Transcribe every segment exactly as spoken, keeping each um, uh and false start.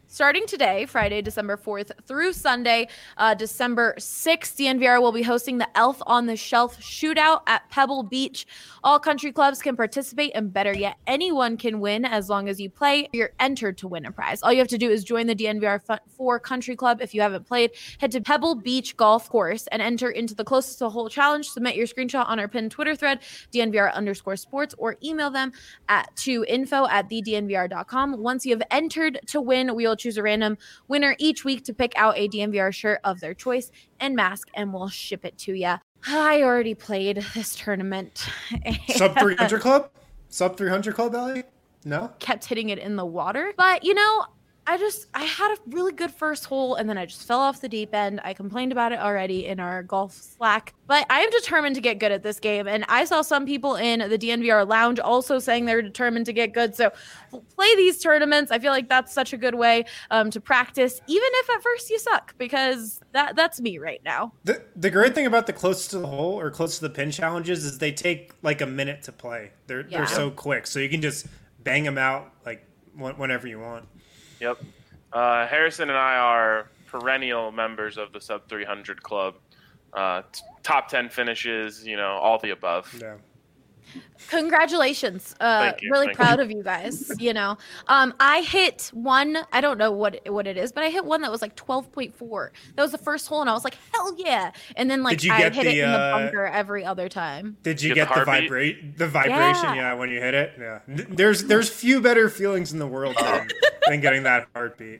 Starting today, Friday, December fourth through Sunday, uh, December sixth, D N V R will be hosting the Elf on the Shelf shootout at Pebble Beach. All country clubs can participate, and better yet, anyone can win as long as you play. You're entered to win a prize. All you have to do is join the D N V R four Country Club. If you haven't played, head to Pebble Beach Golf Course and enter into the closest to hole challenge. Submit your screenshot on our pinned Twitter thread, D N V R underscore sports, or email them at to info at the D N V R dot com. Once you have entered to win, we will choose a random winner each week to pick out a D N V R shirt of their choice and mask, and we'll ship it to you. I already played this tournament. Sub three hundred club? Sub three hundred club, Ellie? No? Kept hitting it in the water. But, you know, I just, I had a really good first hole, and then I just fell off the deep end. I complained about it already in our golf Slack. But I am determined to get good at this game. And I saw some people in the D N V R lounge also saying they're determined to get good. So play these tournaments. I feel like that's such a good way um, to practice, even if at first you suck, because that that's me right now. The the great thing about the close to the hole or close to the pin challenges is they take like a minute to play. They're yeah. they're so quick. So you can just bang them out like whenever you want. Yep. Uh, Harrison and I are perennial members of the Sub three hundred Club. Uh, t- top ten finishes, you know, all the above. Yeah. Congratulations. Uh, really Thank proud you. of you guys. You know, um, I hit one, I don't know what, what it is, but I hit one that was like twelve point four. That was the first hole, and I was like, hell yeah. And then like I hit the, it in the bunker uh, every other time. Did you get, get the, the vibrate the vibration? Yeah. yeah, when you hit it. Yeah. There's there's few better feelings in the world than, than getting that heartbeat.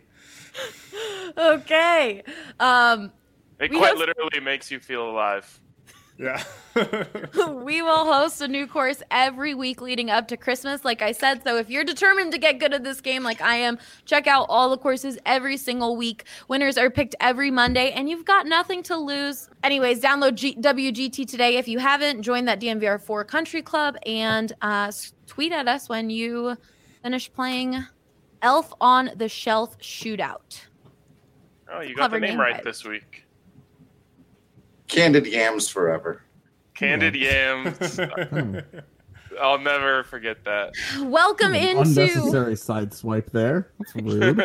Okay. Um, it quite have... literally makes you feel alive. Yeah. We will host a new course every week leading up to Christmas, like I said. So if you're determined to get good at this game like I am, check out all the courses every single week. Winners are picked every Monday, and you've got nothing to lose. Anyways, download G- W G T today if you haven't. Join that D N V R four Country Club, and uh, tweet at us when you finish playing Elf on the Shelf shootout. Oh, you got Clever the name, name right, right this week. Candied yams forever. Candied yams. I'll never forget that. Welcome An into unnecessary side swipe there. That's rude.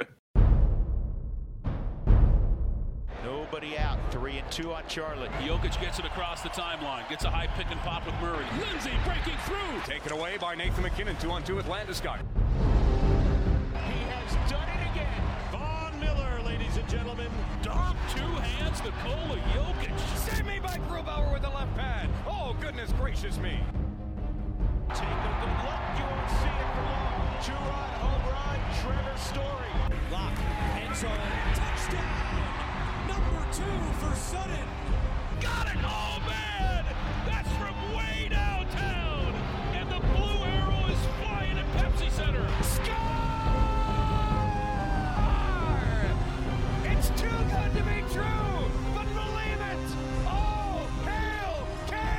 Nobody out. Three and two on Charlotte. Jokic gets it across the timeline. Gets a high pick and pop with Murray. Lindsay breaking through. Taken away by Nathan McKinnon. Two on two with Landeskog. He has done it again. Von Miller, ladies and gentlemen. Dom, two hands, Nikola Jokic. Save me by Grubauer with the left pad. Oh, goodness gracious me. Take a good look. You won't see it for long. Two-run home run, Trevor Story. Lock, end zone, touchdown. Number two for Sutton. Got it. Oh, man. That's from way downtown. And the blue arrow is flying at Pepsi Center. Score! It's too good to be true, but believe it! Oh, hail,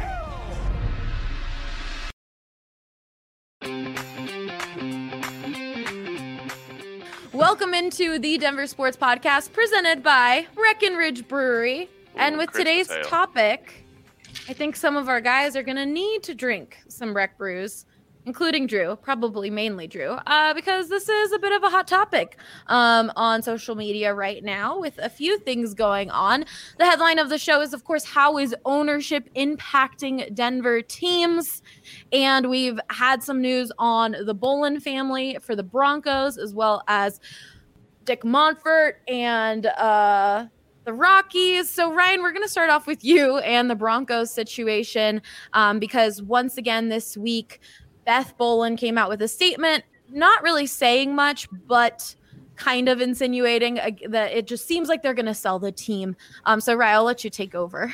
Kale! Welcome into the Denver Sports Podcast presented by Breckenridge Brewery. Ooh, and with today's ale. topic, I think some of our guys are going to need to drink some Breck brews, including Drew, probably mainly Drew, uh, because this is a bit of a hot topic um, on social media right now with a few things going on. The headline of the show is, of course, how is ownership impacting Denver teams? And we've had some news on the Bolin family for the Broncos, as well as Dick Montfort and uh, the Rockies. So, Ryan, we're going to start off with you and the Broncos situation um, because once again this week, Beth Bolin came out with a statement, not really saying much, but kind of insinuating uh, that it just seems like they're going to sell the team. Um, so, Ryan, I'll let you take over.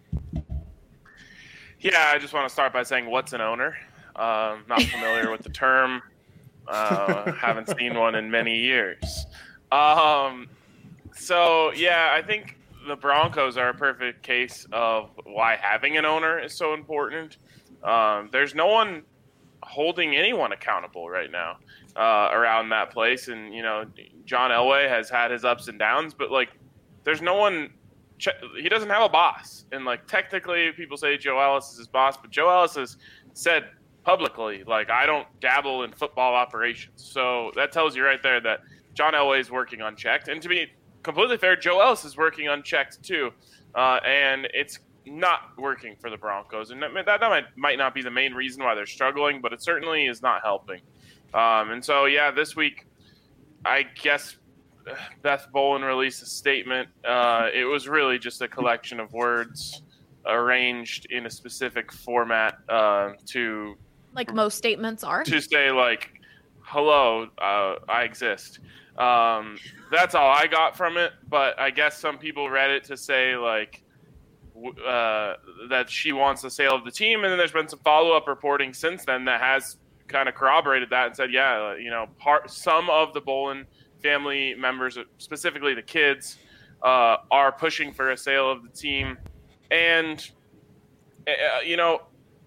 Yeah, I just want to start by saying, what's an owner? Um, not familiar with the term. Uh, haven't seen one in many years. Um, so, yeah, I think the Broncos are a perfect case of why having an owner is so important. Um, there's no one holding anyone accountable right now uh, around that place. And, you know, John Elway has had his ups and downs, but, like, there's no one ch- – he doesn't have a boss. And, like, technically people say Joe Ellis is his boss, but Joe Ellis has said publicly, like, I don't dabble in football operations. So that tells you right there that John Elway is working unchecked. And to be completely fair, Joe Ellis is working unchecked too. Uh, and it's not working for the Broncos. And that, that might, might not be the main reason why they're struggling, but it certainly is not helping. Um, and so, yeah, this week, I guess Beth Bolin released a statement. Uh, it was really just a collection of words arranged in a specific format uh, to like most statements are to say like, hello, uh, I exist. Um, that's all I got from it. But I guess some people read it to say like uh, that she wants the sale of the team. And then there's been some follow-up reporting since then that has kind of corroborated that and said, yeah, you know, part some of the Bolin family members, specifically the kids, uh, are pushing for a sale of the team. And, uh, you know,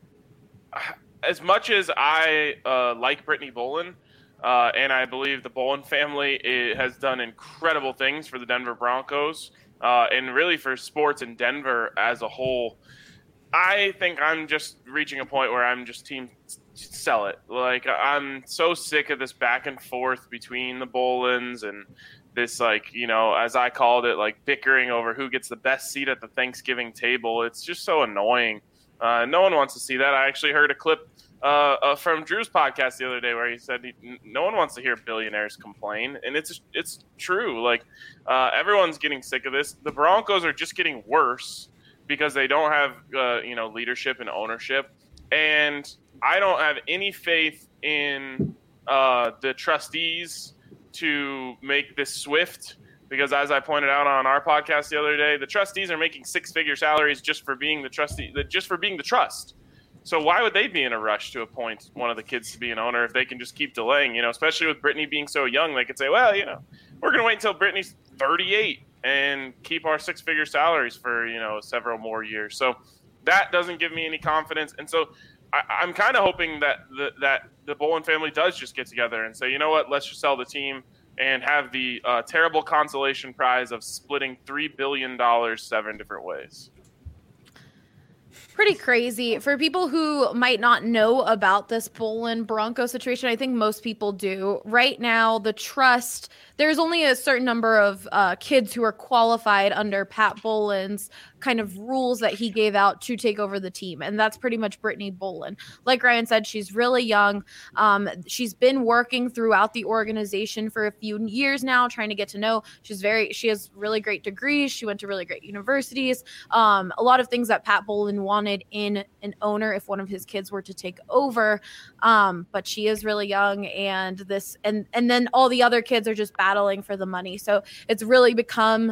as much as I uh, like Brittany Bolin, uh, and I believe the Bolin family has done incredible things for the Denver Broncos uh, and really for sports in Denver as a whole, I think I'm just reaching a point where I'm just team sell it. Like, I'm so sick of this back and forth between the Bolins and this, like, you know, as I called it, like bickering over who gets the best seat at the Thanksgiving table. It's just so annoying. Uh, no one wants to see that. I actually heard a clip uh, uh, from Drew's podcast the other day where he said he, no one wants to hear billionaires complain. And it's it's true. Like, uh, everyone's getting sick of this. The Broncos are just getting worse because they don't have, uh, you know, leadership and ownership. And I don't have any faith in uh, the trustees to make this swift because, as I pointed out on our podcast the other day, the trustees are making six-figure salaries just for being the trustee, just for being the trust. So why would they be in a rush to appoint one of the kids to be an owner if they can just keep delaying? You know, especially with Brittany being so young, they could say, well, you know, we're going to wait until Brittany's thirty-eight and keep our six-figure salaries for, you know, several more years. So that doesn't give me any confidence, and so I, I'm kind of hoping that the, that the Bolin family does just get together and say, you know what, let's just sell the team and have the uh, terrible consolation prize of splitting three billion dollars seven different ways. Pretty crazy. For people who might not know about this Bolin Bronco situation, I think most people do. Right now, the trust, there's only a certain number of uh, kids who are qualified under Pat Bolin's kind of rules that he gave out to take over the team. And that's pretty much Brittany Bolin. Like Ryan said, she's really young. Um, she's been working throughout the organization for a few years now, trying to get to know. She's very, she has really great degrees. She went to really great universities. Um, a lot of things that Pat Bolin wanted in an owner if one of his kids were to take over. Um, but she is really young, and this, and, and then all the other kids are just battling for the money. So it's really become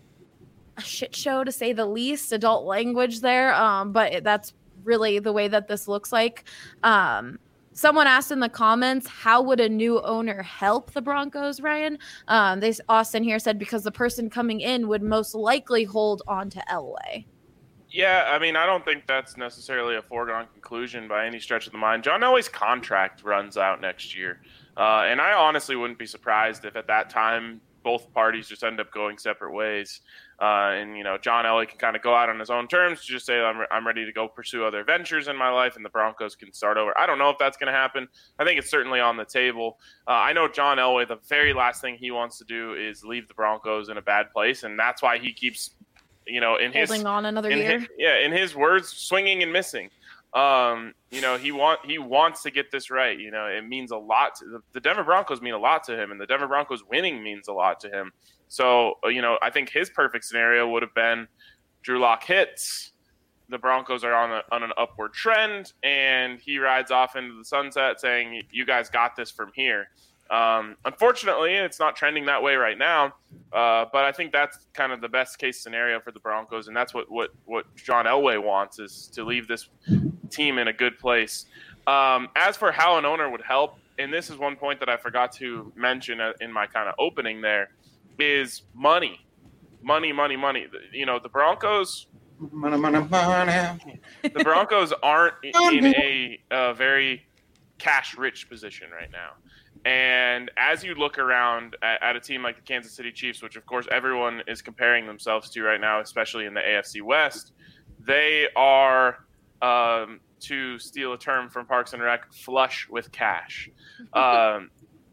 a shit show, to say the least. Adult language there, um, but that's really the way that this looks like. Um, someone asked in the comments, how would a new owner help the Broncos, Ryan? Um, they, Austin here said because the person coming in would most likely hold on to Elway. Yeah, I mean, I don't think that's necessarily a foregone conclusion by any stretch of the mind. John Elway's contract runs out next year, uh, and I honestly wouldn't be surprised if at that time both parties just end up going separate ways. Uh, and, you know, John Elway can kind of go out on his own terms to just say, I'm, re- I'm ready to go pursue other ventures in my life, and the Broncos can start over. I don't know if that's going to happen. I think it's certainly on the table. Uh, I know John Elway, the very last thing he wants to do is leave the Broncos in a bad place, and that's why he keeps, you know, in his holding on another in year. His, yeah, in his words, swinging and missing. Um, you know, he want he wants to get this right. You know, it means a lot. To, the Denver Broncos mean a lot to him, and the Denver Broncos winning means a lot to him. So, you know, I think his perfect scenario would have been Drew Lock hits, the Broncos are on, a, on an upward trend, and he rides off into the sunset saying, you guys got this from here. Um, unfortunately, it's not trending that way right now, uh, but I think that's kind of the best case scenario for the Broncos, and that's what, what, what John Elway wants, is to leave this team in a good place. Um, as for how an owner would help, and this is one point that I forgot to mention in my kind of opening there, is money, money, money, money. You know, the Broncos, money, money, money. The Broncos aren't in a, a very cash-rich position right now. And as you look around at, at a team like the Kansas City Chiefs, which of course everyone is comparing themselves to right now, especially in the A F C West, they are, um, to steal a term from Parks and Rec, flush with cash. Um,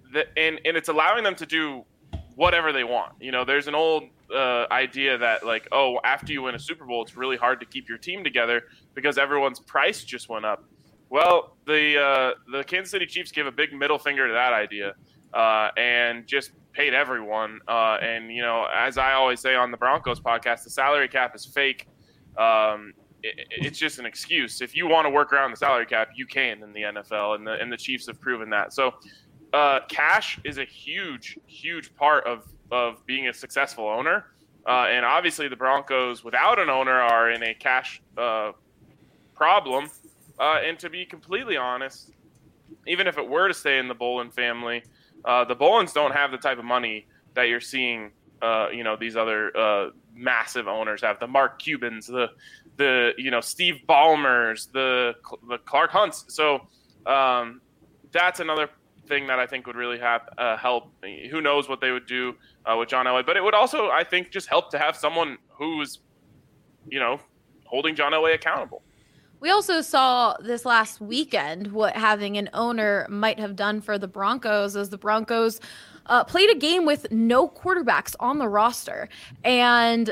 the, and and it's allowing them to do whatever they want. You know, there's an old uh, idea that like, oh, after you win a Super Bowl, it's really hard to keep your team together because everyone's price just went up. Well, the uh, the Kansas City Chiefs gave a big middle finger to that idea uh, and just paid everyone. Uh, and, you know, as I always say on the Broncos podcast, the salary cap is fake. Um, it, it's just an excuse. If you want to work around the salary cap, you can in the N F L, and the, and the Chiefs have proven that. So uh, cash is a huge, huge part of, of being a successful owner. Uh, and obviously the Broncos without an owner are in a cash uh, problem. Uh, and to be completely honest, even if it were to stay in the Bolin family, uh, the Bolins don't have the type of money that you're seeing, uh, you know, these other uh, massive owners have. The Mark Cubans, the the you know Steve Ballmers, the the Clark Hunts. So um, that's another thing that I think would really have uh, help. Who knows what they would do uh, with John Elway? But it would also, I think, just help to have someone who's, you know, holding John Elway accountable. We also saw this last weekend what having an owner might have done for the Broncos, as the Broncos uh, played a game with no quarterbacks on the roster. And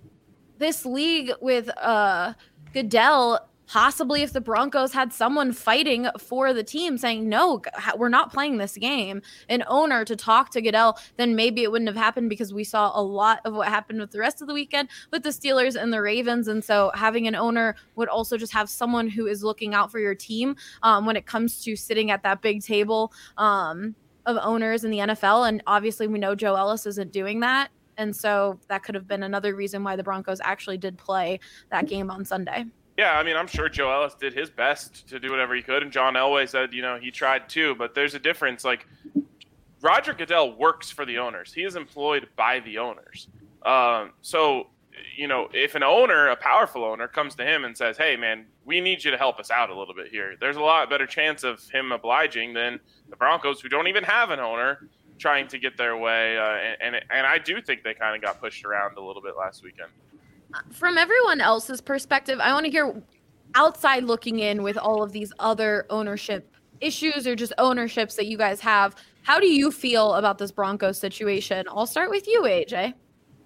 this league with uh, Goodell, possibly if the Broncos had someone fighting for the team saying, no, we're not playing this game, an owner to talk to Goodell, then maybe it wouldn't have happened, because we saw a lot of what happened with the rest of the weekend with the Steelers and the Ravens. And so having an owner would also just have someone who is looking out for your team um, when it comes to sitting at that big table um, of owners in the N F L. And obviously we know Joe Ellis isn't doing that. And so that could have been another reason why the Broncos actually did play that game on Sunday. Yeah, I mean, I'm sure Joe Ellis did his best to do whatever he could, and John Elway said, you know, he tried too, but there's a difference. Like, Roger Goodell works for the owners. He is employed by the owners. Um, so, you know, if an owner, a powerful owner, comes to him and says, hey, man, we need you to help us out a little bit here, there's a lot better chance of him obliging than the Broncos, who don't even have an owner, trying to get their way. Uh, and, and, and I do think they kind of got pushed around a little bit last weekend. From everyone else's perspective, I want to hear outside looking in with all of these other ownership issues or just ownerships that you guys have. How do you feel about this Broncos situation? I'll start with you, A J.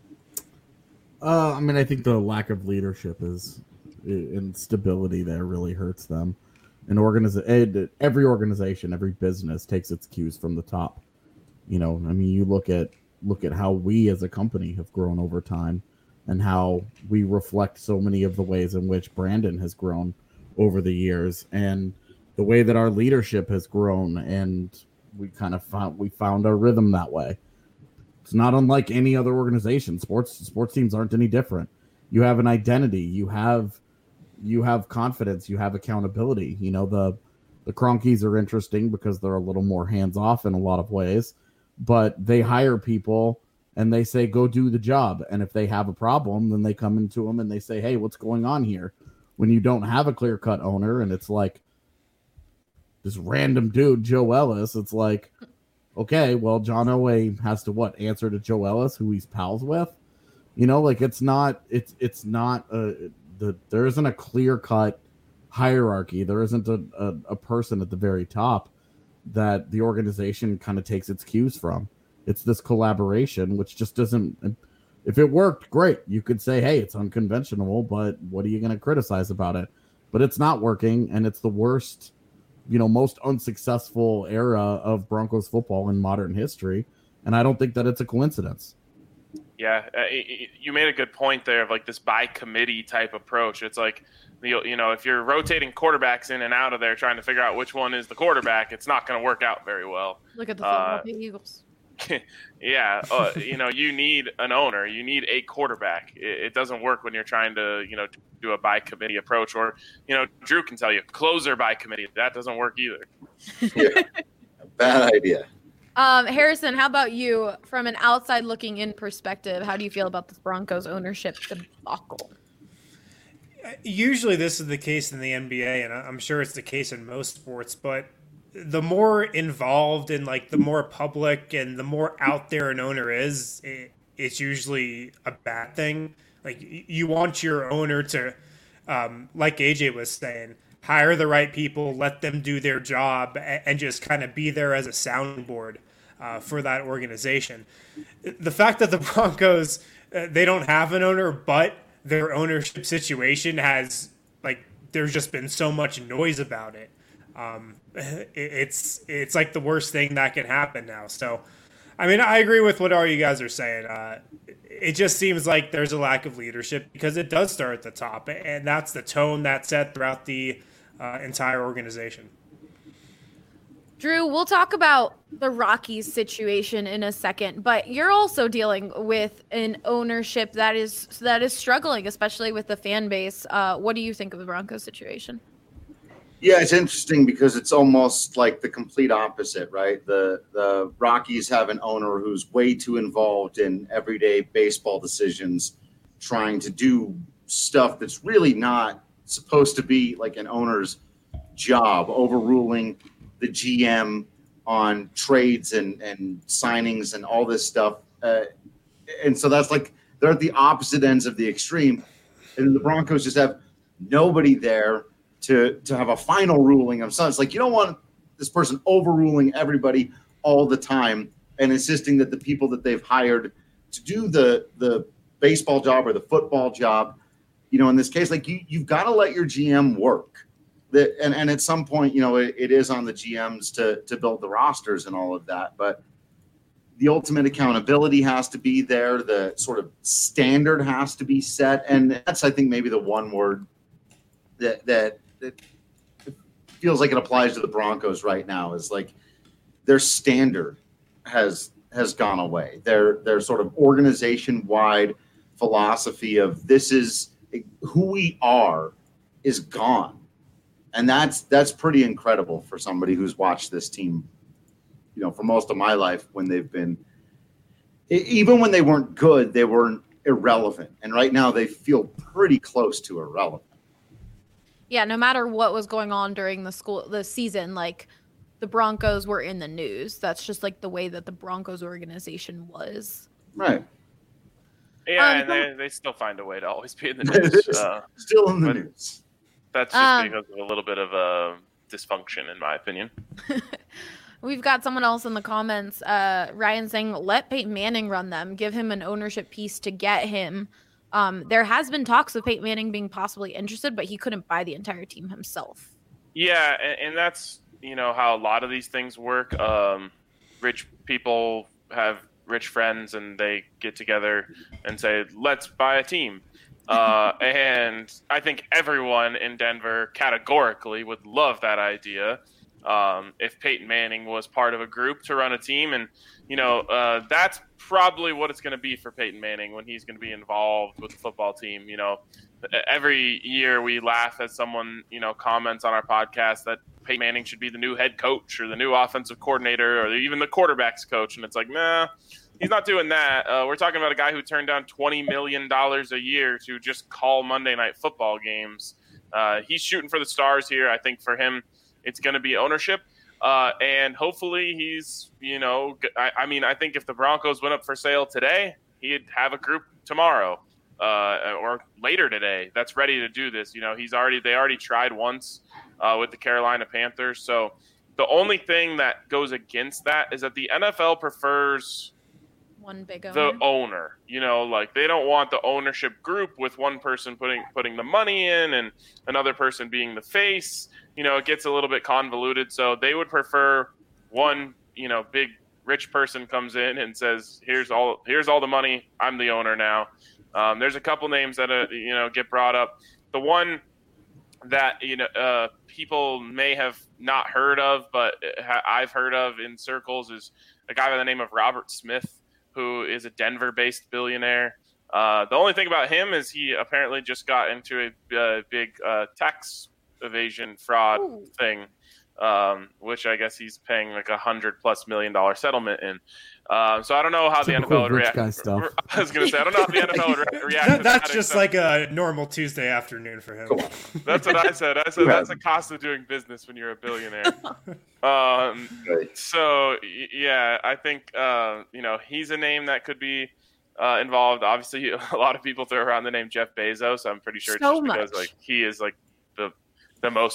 Uh, I mean, I think the lack of leadership is and stability there really hurts them. An organiza- every organization, every business takes its cues from the top. You know, I mean, you look at look at how we as a company have grown over time, and how we reflect so many of the ways in which Brandon has grown over the years, and the way that our leadership has grown, and we kind of found we found our rhythm that way. It's not unlike any other organization. Sports sports teams aren't any different. You have an identity, you have you have confidence, you have accountability. You know, the the Cronkies are interesting because they're a little more hands-off in a lot of ways, but they hire people and they say, go do the job. And if they have a problem, then they come into them and they say, hey, what's going on here? When you don't have a clear-cut owner and it's like this random dude, Joe Ellis, it's like, okay, well, John Elway has to what? Answer to Joe Ellis, who he's pals with? You know, like it's not, it's it's not, a, the there isn't a clear-cut hierarchy. There isn't a, a, a person at the very top that the organization kind of takes its cues from. It's this collaboration, which just doesn't, if it worked, great. You could say, hey, it's unconventional, but what are you going to criticize about it? But it's not working, and it's the worst, you know, most unsuccessful era of Broncos football in modern history, and I don't think that it's a coincidence. Yeah, uh, you made a good point there of like this by committee type approach. It's like, you know, if you're rotating quarterbacks in and out of there trying to figure out which one is the quarterback, it's not going to work out very well. Look at the Philadelphia uh, Eagles. yeah, uh, you know, you need an owner. You need a quarterback. It, it doesn't work when you're trying to, you know, do a by committee approach, or, you know, Drew can tell you closer by committee. That doesn't work either. Yeah, bad idea. Um, Harrison, how about you? From an outside looking in perspective, how do you feel about this Broncos ownership debacle? Usually this is the case in the N B A, and I'm sure it's the case in most sports, but the more involved and like the more public and the more out there an owner is, it, it's usually a bad thing. Like you want your owner to, um, like A J was saying, hire the right people, let them do their job, and just kind of be there as a soundboard. uh, for that organization. The fact that the Broncos, uh, they don't have an owner, but their ownership situation has, like, there's just been so much noise about it. Um, it it's it's like the worst thing that can happen now. So, I mean, I agree with what all you guys are saying. Uh, it just seems like there's a lack of leadership because it does start at the top, and that's the tone that's set throughout the uh, entire organization. Drew, we'll talk about the Rockies situation in a second, but you're also dealing with an ownership that is that is struggling, especially with the fan base. Uh, what do you think of the Broncos situation? Yeah, it's interesting because it's almost like the complete opposite, right? The the Rockies have an owner who's way too involved in everyday baseball decisions, trying to do stuff that's really not supposed to be like an owner's job, overruling the G M on trades and, and signings and all this stuff. Uh, and so that's like they're at the opposite ends of the extreme. And the Broncos just have nobody there to to have a final ruling of something. It's like you don't want this person overruling everybody all the time and insisting that the people that they've hired to do the the baseball job or the football job, you know, in this case, like you, you've got to let your G M work. That and, and at some point, you know, it, it is on the G Ms to to build the rosters and all of that. But the ultimate accountability has to be there. The sort of standard has to be set. And that's, I think, maybe the one word that that, that feels like it applies to the Broncos right now is like their standard has has gone away. Their their sort of organization-wide philosophy of this is who we are is gone. And that's that's pretty incredible for somebody who's watched this team, you know, for most of my life when they've been, even when they weren't good, they weren't irrelevant. And right now they feel pretty close to irrelevant. Yeah, no matter what was going on during the school the season, like the Broncos were in the news. That's just like the way that the Broncos organization was. Right. Yeah, Um, and they, they still find a way to always be in the news. Uh, Still in the news. That's just Um, because of a little bit of uh, dysfunction, in my opinion. We've got someone else in the comments, uh, Ryan saying, let Peyton Manning run them. Give him an ownership piece to get him. Um, there has been talks of Peyton Manning being possibly interested, but he couldn't buy the entire team himself. Yeah, and, and that's, you know, how a lot of these things work. Um, rich people have rich friends, and they get together and say, let's buy a team. Uh, and I think everyone in Denver categorically would love that idea. Um, if Peyton Manning was part of a group to run a team, and, you know, uh, that's probably what it's going to be for Peyton Manning when he's going to be involved with the football team. You know, every year we laugh as someone, you know, comments on our podcast that Peyton Manning should be the new head coach or the new offensive coordinator or even the quarterback's coach. And it's like, nah, he's not doing that. Uh, we're talking about a guy who turned down twenty million dollars a year to just call Monday Night Football games. Uh, he's shooting for the stars here. I think for him, it's going to be ownership. Uh, and hopefully he's, you know, I, I mean, I think if the Broncos went up for sale today, he'd have a group tomorrow uh, or later today that's ready to do this. You know, he's already, they already tried once uh, with the Carolina Panthers. So the only thing that goes against that is that the N F L prefers One big owner. the owner, you know, like they don't want the ownership group with one person putting, putting the money in and another person being the face. You know, it gets a little bit convoluted. So they would prefer one, you know, big rich person comes in and says, here's all, here's all the money. I'm the owner now. Um, there's a couple names that, uh, you know, get brought up. The one that, you know, uh, people may have not heard of, but I've heard of in circles is a guy by the name of Robert Smith, who is a Denver-based billionaire. Uh, the only thing about him is he apparently just got into a uh, big uh, tax evasion fraud Ooh. thing, um, which I guess he's paying like a hundred plus million dollar settlement in. Uh, so I don't know how the N F L would rich react. guy stuff. I was going to say, I don't know how the N F L would re- react. That, to that's that just except- like a normal Tuesday afternoon for him. That's what I said. I said that's the cost of doing business when you're a billionaire. um, Right. so y- yeah, I think uh, you know he's a name that could be uh, involved. Obviously, a lot of people throw around the name Jeff Bezos. I'm pretty sure it's So just because much. like he is like the the most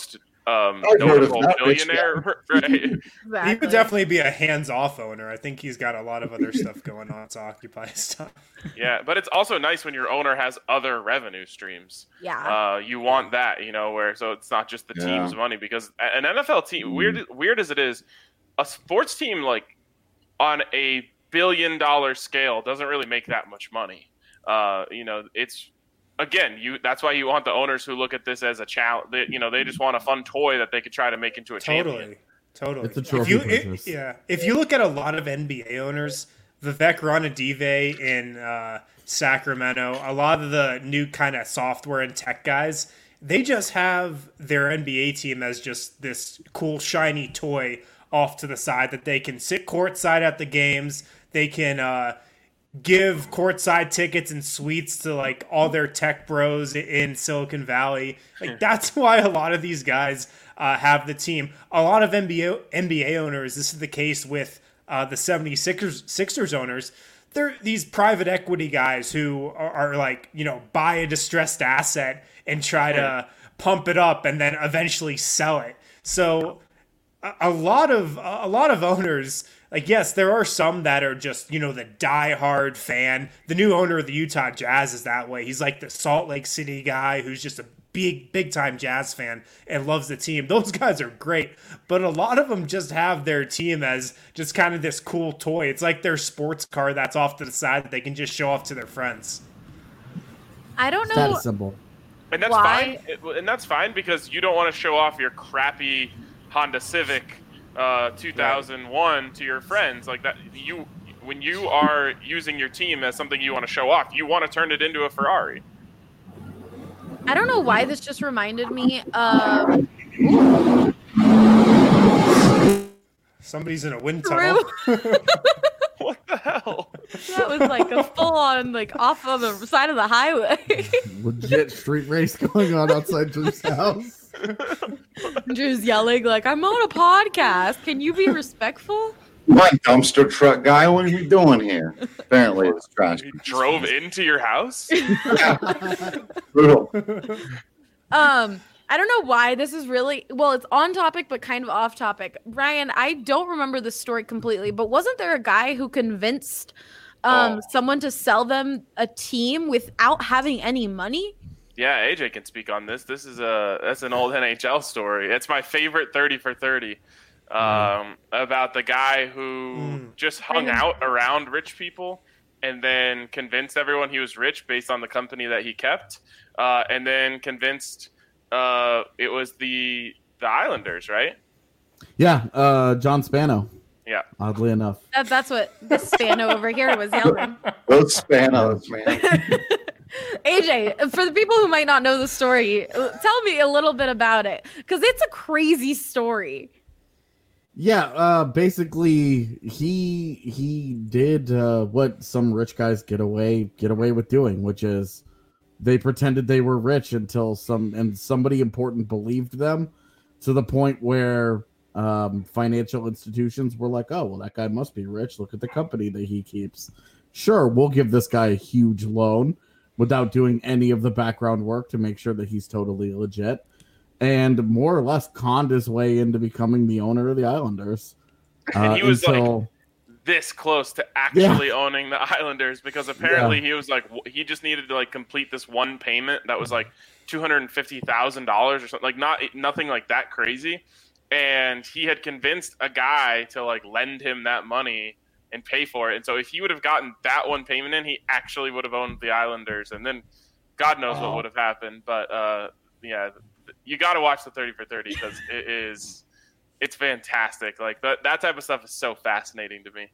um, notable billionaire, right? Exactly. He would definitely be a hands-off owner. I think he's got a lot of other stuff going on to occupy his time. Yeah, but it's also nice when your owner has other revenue streams. Yeah, uh, you want that, you know, where so it's not just the yeah. team's money, because an N F L team, mm. weird, weird as it is, a sports team like on a billion-dollar scale doesn't really make that much money. Uh, you know, it's. Again, you that's why you want the owners who look at this as a challenge. They, you know, they just want a fun toy that they could try to make into a totally, champion. Totally, it's a trophy if you, business. It, yeah, if you look at a lot of N B A owners, Vivek Ranadive in uh, Sacramento, a lot of the new kind of software and tech guys, they just have their N B A team as just this cool shiny toy off to the side that they can sit courtside at the games. They can. Uh, give courtside tickets and suites to like all their tech bros in Silicon Valley. Like that's why a lot of these guys uh, have the team. A lot of N B A N B A owners, this is the case with uh, the seventy-sixers Sixers owners. They're these private equity guys who are, are like, you know, buy a distressed asset and try to pump it up and then eventually sell it. So a, a lot of a lot of owners. Like, yes, there are some that are just, you know, the diehard fan. The new owner of the Utah Jazz is that way. He's like the Salt Lake City guy who's just a big, big-time Jazz fan and loves the team. Those guys are great. But a lot of them just have their team as just kind of this cool toy. It's like their sports car that's off to the side that they can just show off to their friends. I don't know. That is simple. And that's why? fine. And that's fine because you don't want to show off your crappy Honda Civic Uh, two thousand one right. to your friends like that. You, when you are using your team as something you want to show off, you want to turn it into a Ferrari. I don't know why this just reminded me of. Somebody's in a wind tunnel. What the hell? That was like a full-on, like off of the side of the highway. Legit street race going on outside Drew's house. Drew's yelling like, "I'm on a podcast. Can you be respectful?" My dumpster truck guy, what are you doing here? Apparently, it's trash. He drove into your house. Brutal. Um, I don't know why this is really well. It's on topic, but kind of off topic. Ryan, I don't remember the story completely, but wasn't there a guy who convinced um oh. someone to sell them a team without having any money? Yeah, A J can speak on this. This is a that's an old N H L story. It's my favorite thirty for thirty um, mm. about the guy who mm. just hung out around rich people and then convinced everyone he was rich based on the company that he kept, uh, and then convinced uh, it was the the Islanders, right? Yeah, uh, John Spano. Yeah. Oddly enough. That, that's what the Spano over here was yelling. Those Spanos, man. A J, for the people who might not know the story, tell me a little bit about it, because it's a crazy story. Yeah, uh, basically, he he did uh, what some rich guys get away get away with doing, which is they pretended they were rich until some and somebody important believed them, to the point where um, financial institutions were like, "Oh, well, that guy must be rich. Look at the company that he keeps. Sure, we'll give this guy a huge loan." Without doing any of the background work to make sure that he's totally legit, and more or less conned his way into becoming the owner of the Islanders. And uh, he was until... like this close to actually yeah. owning the Islanders, because apparently yeah. he was like, he just needed to like complete this one payment that was like two hundred fifty thousand dollars or something, like not nothing like that crazy. And he had convinced a guy to like lend him that money and pay for it. And so if he would have gotten that one payment in, he actually would have owned the Islanders. And then God knows oh. what would have happened. But uh, yeah, you got to watch the thirty for thirty because it is, it's fantastic. Like that, that type of stuff is so fascinating to me.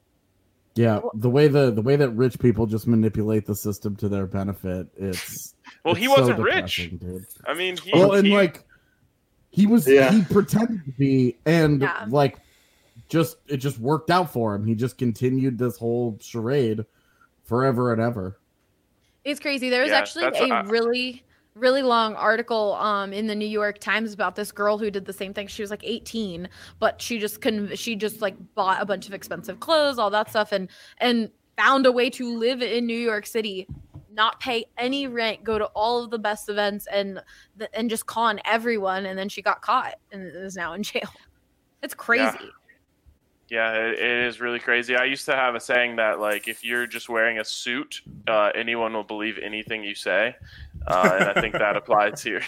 Yeah, the way the the way that rich people just manipulate the system to their benefit, it's well, it's he wasn't so rich. Dude. I mean, he, well, and he, like he was, yeah. he pretended to be, and yeah. like. Just it just worked out for him. He just continued this whole charade forever and ever. It's crazy. There was yeah, actually a I... really, really long article um in the New York Times about this girl who did the same thing. She was like eighteen, but she just couldn't. She just like bought a bunch of expensive clothes, all that stuff, and and found a way to live in New York City not pay any rent, go to all of the best events, and and just con everyone. And then she got caught and is now in jail. It's crazy. Yeah. Yeah, it, it is really crazy. I used to have a saying that, like, if you're just wearing a suit, uh, anyone will believe anything you say. Uh, and I think that applies here.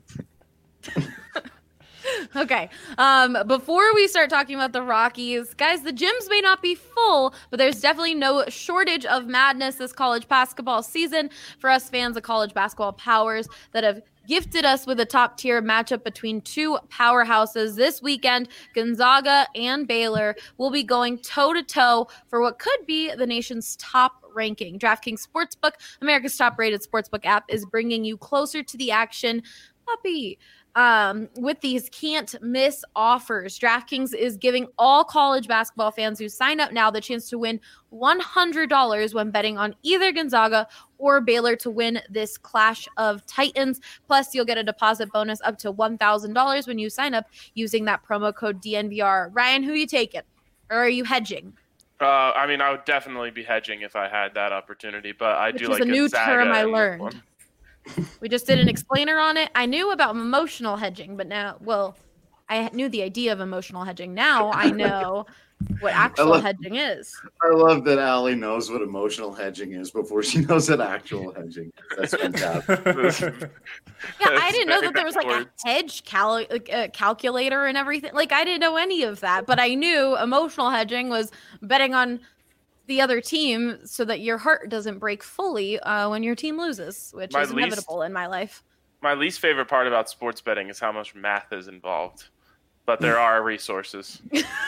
Okay. Um, before we start talking about the Rockies, guys, the gyms may not be full, but there's definitely no shortage of madness this college basketball season for us fans of college basketball powers that have gifted us with a top-tier matchup between two powerhouses. This weekend, Gonzaga and Baylor will be going toe-to-toe for what could be the nation's top ranking. DraftKings Sportsbook, America's top-rated sportsbook app, is bringing you closer to the action. Puppy. Um, with these can't-miss offers, DraftKings is giving all college basketball fans who sign up now the chance to win one hundred dollars when betting on either Gonzaga or Baylor to win this clash of titans. Plus, you'll get a deposit bonus up to one thousand dollars when you sign up using that promo code D N V R. Ryan, who are you taking? Or are you hedging? Uh, I mean, I would definitely be hedging if I had that opportunity, but I Which do is like a new Gonzaga term I in this learned. one. We just did an explainer on it. I knew about emotional hedging, but now, well, I knew the idea of emotional hedging. Now I know what actual love, hedging is. I love that Allie knows what emotional hedging is before she knows what actual hedging is. That's fantastic. Yeah, I didn't know that there was like a hedge cal- uh, calculator and everything. Like, I didn't know any of that, but I knew emotional hedging was betting on the other team so that your heart doesn't break fully uh, when your team loses, which My is least- inevitable in my life. My least favorite part about sports betting is how much math is involved, but there are resources.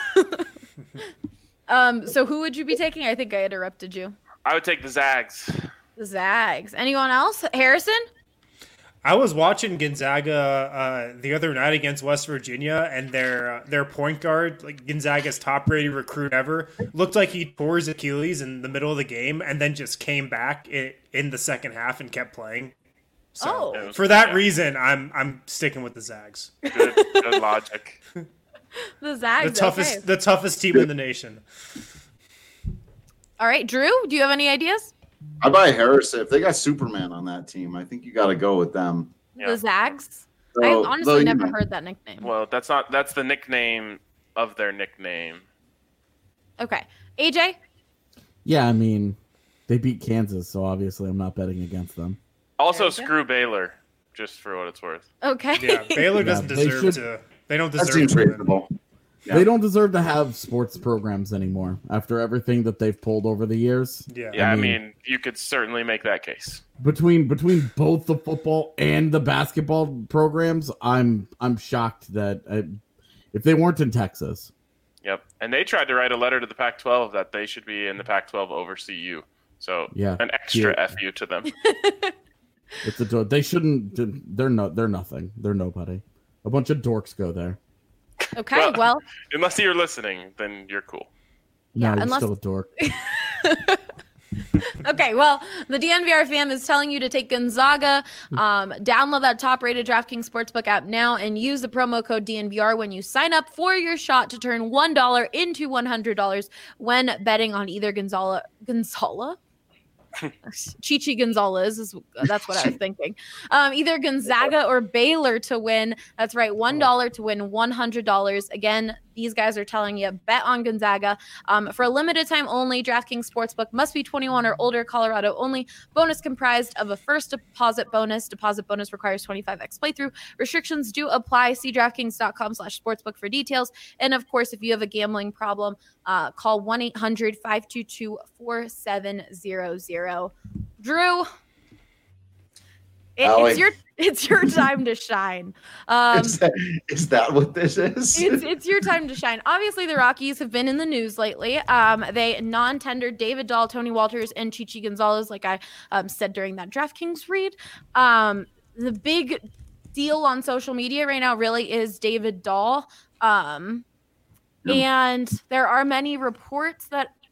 Um, so who would you be taking? I think I interrupted you. I would take the Zags. The Zags. Anyone else? Harrison? I was watching Gonzaga uh, the other night against West Virginia, and their uh, their point guard, like Gonzaga's top-rated recruit ever, looked like he tore his Achilles in the middle of the game, and then just came back in, in the second half and kept playing. So Oh. for that Yeah. reason, I'm I'm sticking with the Zags. Good, good logic. The Zags. The toughest Okay. the toughest team in the nation. All right, Drew, do you have any ideas? I buy Harrison. If they got Superman on that team, I think you got to go with them. Yeah. The Zags? So, I though, honestly you never know, heard that nickname. Well, that's not that's the nickname of their nickname. Okay. A J? Yeah, I mean, they beat Kansas, so obviously I'm not betting against them. Also, There you go. screw Baylor, just for what it's worth. Okay. Yeah, Baylor Yeah, doesn't they deserve should- to. They don't That deserve seems to win. reasonable. Yeah. They don't deserve to have sports programs anymore after everything that they've pulled over the years. Yeah. Yeah, I mean- mean, you could certainly make that case. Between between both the football and the basketball programs, I'm I'm shocked that I, if they weren't in Texas, Yep. And they tried to write a letter to the Pac twelve that they should be in the Pac twelve over C U. So Yeah. an extra Yeah. F U to them. it's a they shouldn't. They're no. They're nothing. They're nobody. A bunch of dorks go there. Okay, Well- well, Unless you're listening, then you're cool. Yeah, no, you're unless- still a dork. okay, well, the D N V R fam is telling you to take Gonzaga. Um, download that top-rated DraftKings Sportsbook app now and use the promo code D N V R when you sign up for your shot to turn one dollar into one hundred dollars when betting on either Gonzala, Gonzala? Chichi Gonzalez is that's what I was thinking. Um, either Gonzaga or Baylor to win. That's right, one dollar to win one hundred dollars. Again, these guys are telling you bet on Gonzaga. Um, for a limited time only, DraftKings Sportsbook must be twenty-one or older. Colorado only. Bonus comprised of a first deposit bonus. Deposit bonus requires twenty-five x playthrough. Restrictions do apply. See DraftKings dot com slash sportsbook for details. And of course, if you have a gambling problem, uh, call one eight hundred five two two four seven zero zero. Drew, it, Allie. it's your it's your time to shine. Um, is, that, is that what this is? it's it's your time to shine. Obviously, the Rockies have been in the news lately. Um, they non-tendered David Dahl, Tony Walters, and Chichi Gonzalez, like I um, said during that DraftKings read. Um, the big deal on social media right now really is David Dahl. Um, Yeah. and there are many reports that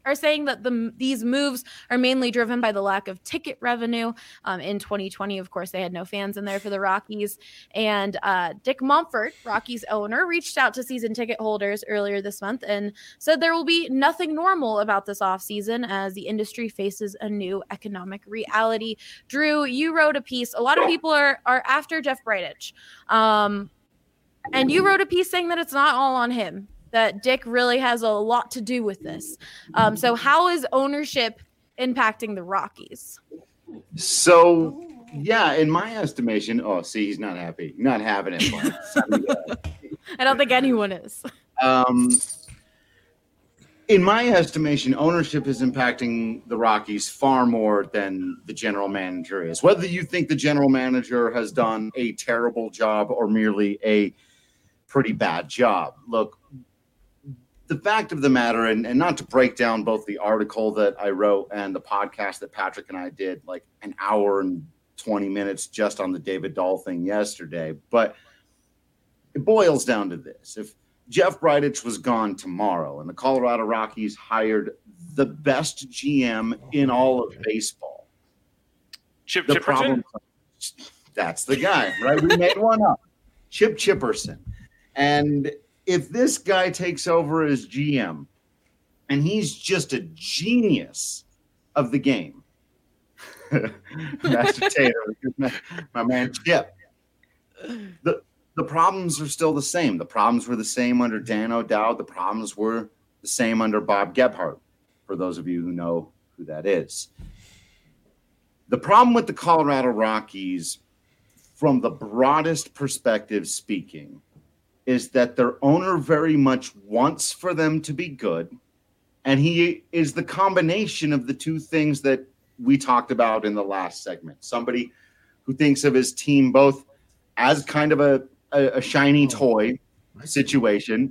are saying that the these moves are mainly driven by the lack of ticket revenue. Um, in twenty twenty, of course, they had no fans in there for the Rockies. And uh, Dick Monfort, Rockies owner, reached out to season ticket holders earlier this month and said there will be nothing normal about this offseason as the industry faces a new economic reality. Drew, you wrote a piece. A lot of people are, are after Jeff Bridich. Um, and you wrote a piece saying that it's not all on him, that Dick really has a lot to do with this. Um, so how is ownership impacting the Rockies? So, yeah, in my estimation, oh, see, he's not happy. Not having it. I don't think anyone is. Um, in my estimation, ownership is impacting the Rockies far more than the general manager is. Whether you think the general manager has done a terrible job or merely a pretty bad job. Look, the fact of the matter, and, and not to break down both the article that I wrote and the podcast that Patrick and I did, like an hour and twenty minutes just on the David Dahl thing yesterday, but it boils down to this. If Jeff Bridich was gone tomorrow and the Colorado Rockies hired the best G M in all of baseball, Chip the Chipperson? problem, that's the guy, right? We made one up. Chip Chipperson. And if this guy takes over as G M and he's just a genius of the game, Master Tater, my, my man Chip, the, the problems are still the same. The problems were the same under Dan O'Dowd. The problems were the same under Bob Gebhardt, for those of you who know who that is. The problem with the Colorado Rockies, from the broadest perspective speaking, is that their owner very much wants for them to be good. And he is the combination of the two things that we talked about in the last segment. Somebody who thinks of his team both as kind of a, a, a shiny toy situation,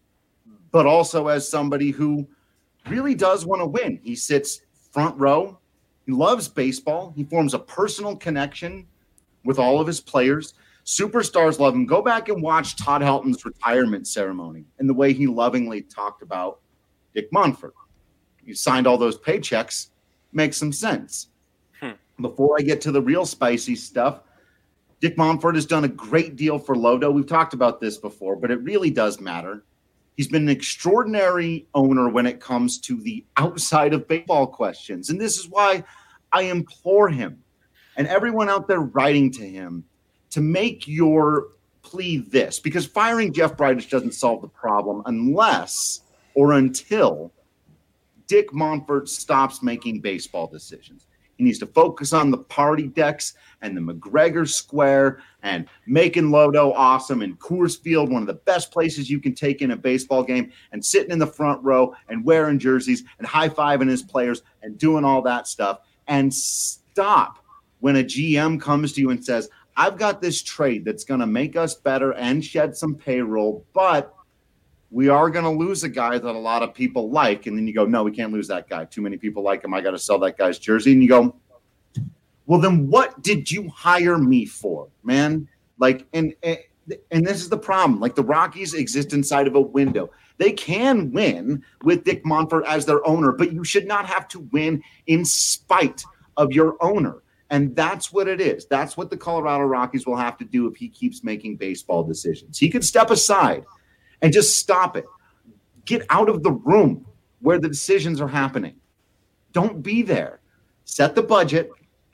but also as somebody who really does want to win. He sits front row. He loves baseball. He forms a personal connection with all of his players. Superstars love him. Go back and watch Todd Helton's retirement ceremony and the way he lovingly talked about Dick Monfort. He signed all those paychecks. Makes some sense. Hmm. Before I get to the real spicy stuff, Dick Monfort has done a great deal for Lodo. We've talked about this before, but it really does matter. He's been an extraordinary owner when it comes to the outside of baseball questions. And this is why I implore him and everyone out there writing to him to make your plea this, because firing Jeff Bridich doesn't solve the problem unless or until Dick Monfort stops making baseball decisions. He needs to focus on the party decks and the McGregor Square and making Lodo awesome and Coors Field, one of the best places you can take in a baseball game, and sitting in the front row and wearing jerseys and high-fiving his players and doing all that stuff, and stop when a G M comes to you and says, I've got this trade that's going to make us better and shed some payroll, but we are going to lose a guy that a lot of people like. And then you go, no, we can't lose that guy. Too many people like him. I got to sell that guy's jersey. And you go, well, then what did you hire me for, man? Like, and, and this is the problem. Like, the Rockies exist inside of a window. They can win with Dick Monfort as their owner, but you should not have to win in spite of your owner. And that's what it is. That's what the Colorado Rockies will have to do if he keeps making baseball decisions. He could step aside and just stop it. Get out of the room where the decisions are happening. Don't be there. Set the budget.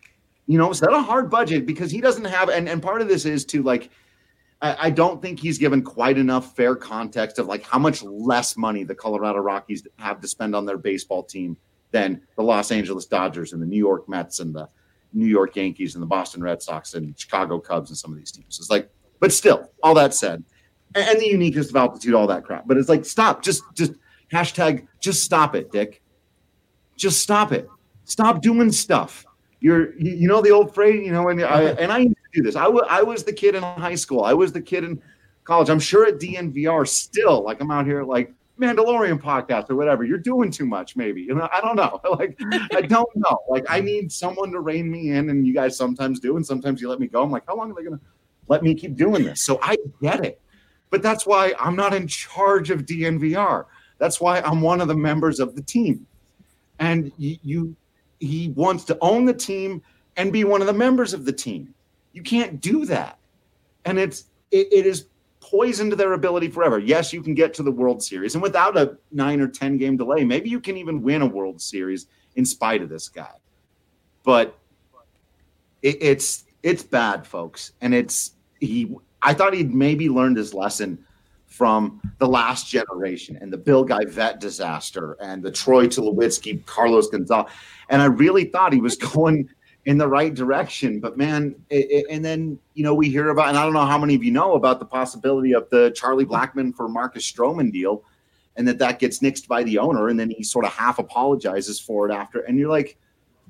You know, set a hard budget, because he doesn't have, and, and part of this is to, like, I, I don't think he's given quite enough fair context of, like, how much less money the Colorado Rockies have to spend on their baseball team than the Los Angeles Dodgers and the New York Mets and the New York Yankees and the Boston Red Sox and Chicago Cubs and some of these teams. It's like, but still, all that said, and, and the uniqueness of altitude, all that crap. But it's like, stop, just, just hashtag, just stop it, Dick. Just stop it. Stop doing stuff. You're, you, you know, the old phrase, you know, and I, and I used to do this. I, w- I was the kid in high school. I was the kid in college. I'm sure at D N V R still, like, I'm out here like Mandalorian podcast or whatever. You're doing too much, maybe. You know, I don't know. Like, I don't know. Like, I need someone to rein me in, and you guys sometimes do, and sometimes you let me go. I'm like, how long are they going to let me keep doing this? So I get it. But that's why I'm not in charge of D N V R. That's why I'm one of the members of the team. and you, you he wants to own the team and be one of the members of the team. You can't do that, and it's it, it is poison to their ability forever. Yes, you can get to the World Series, and without a nine or ten game delay, maybe you can even win a World Series in spite of this guy. But it, it's it's bad, folks, and it's he. I thought he'd maybe learned his lesson from the last generation and the Bill Guy-Vet disaster and the Troy Tulowitzki, Carlos Gonzalez. And I really thought he was going in the right direction. But, man, it, it, and then, you know, we hear about, and I don't know how many of you know about the possibility of the Charlie Blackmon for Marcus Stroman deal, and that that gets nixed by the owner, and then he sort of half apologizes for it after. And you're like,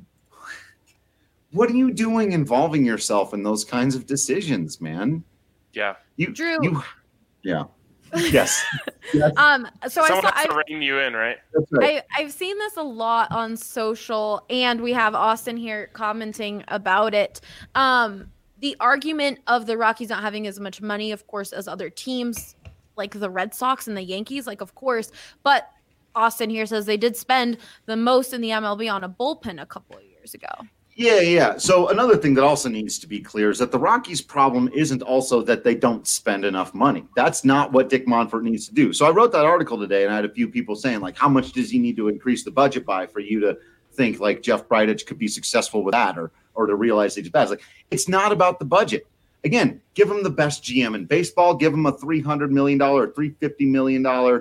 what are you doing involving yourself in those kinds of decisions, man? Yeah. You, Drew. You, yeah. Yes. yes. Um. So Someone I saw. has to I, rein you in, right? That's right. I, I've seen this a lot on social, and we have Austin here commenting about it. Um, the argument of the Rockies not having as much money, of course, as other teams like the Red Sox and the Yankees, like, of course. But Austin here says they did spend the most in the M L B on a bullpen a couple of years ago. Yeah, yeah. So another thing that also needs to be clear is that the Rockies' problem isn't also that they don't spend enough money. That's not what Dick Monfort needs to do. So I wrote that article today, and I had a few people saying, like, how much does he need to increase the budget by for you to think, like, Jeff Bridich could be successful with that, or or to realize that he's bad? It's like, it's not about the budget. Again, give him the best G M in baseball. Give him a three hundred million dollars or three hundred fifty million dollars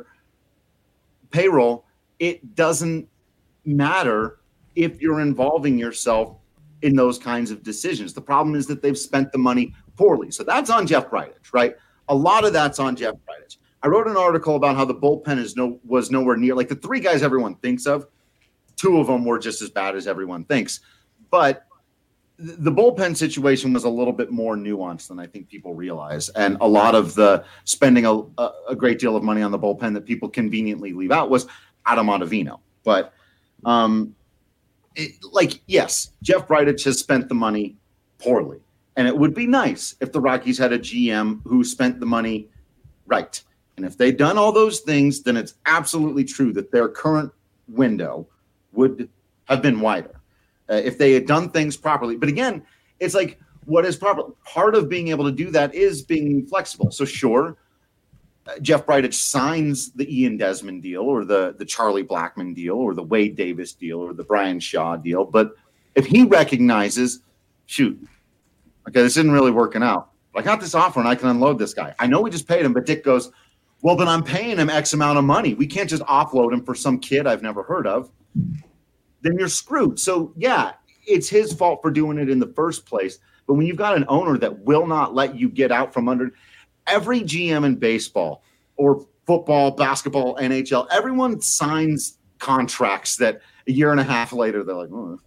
payroll. It doesn't matter if you're involving yourself in those kinds of decisions. The problem is that they've spent the money poorly. So that's on Jeff Bridich, right? A lot of that's on Jeff Bridich. I wrote an article about how the bullpen is no was nowhere near, like, the three guys everyone thinks of, two of them were just as bad as everyone thinks. But th- the bullpen situation was a little bit more nuanced than I think people realize. And a lot of the spending a, a, a great deal of money on the bullpen that people conveniently leave out was Adam Ottavino. But um It, like, yes, Jeff Bridich has spent the money poorly, and it would be nice if the Rockies had a G M who spent the money right. And if they'd done all those things, then it's absolutely true that their current window would have been wider uh, if they had done things properly. But again, it's like, what is proper? Part of being able to do that is being flexible. So sure, Jeff Bridich signs the Ian Desmond deal, or the, the Charlie Blackmon deal, or the Wade Davis deal, or the Brian Shaw deal. But if he recognizes, shoot, okay, this isn't really working out. I got this offer and I can unload this guy. I know we just paid him, but Dick goes, well, then I'm paying him X amount of money. We can't just offload him for some kid I've never heard of. Then you're screwed. So, yeah, it's his fault for doing it in the first place. But when you've got an owner that will not let you get out from under – every G M in baseball or football, basketball, N H L, everyone signs contracts that a year and a half later, they're like, oh,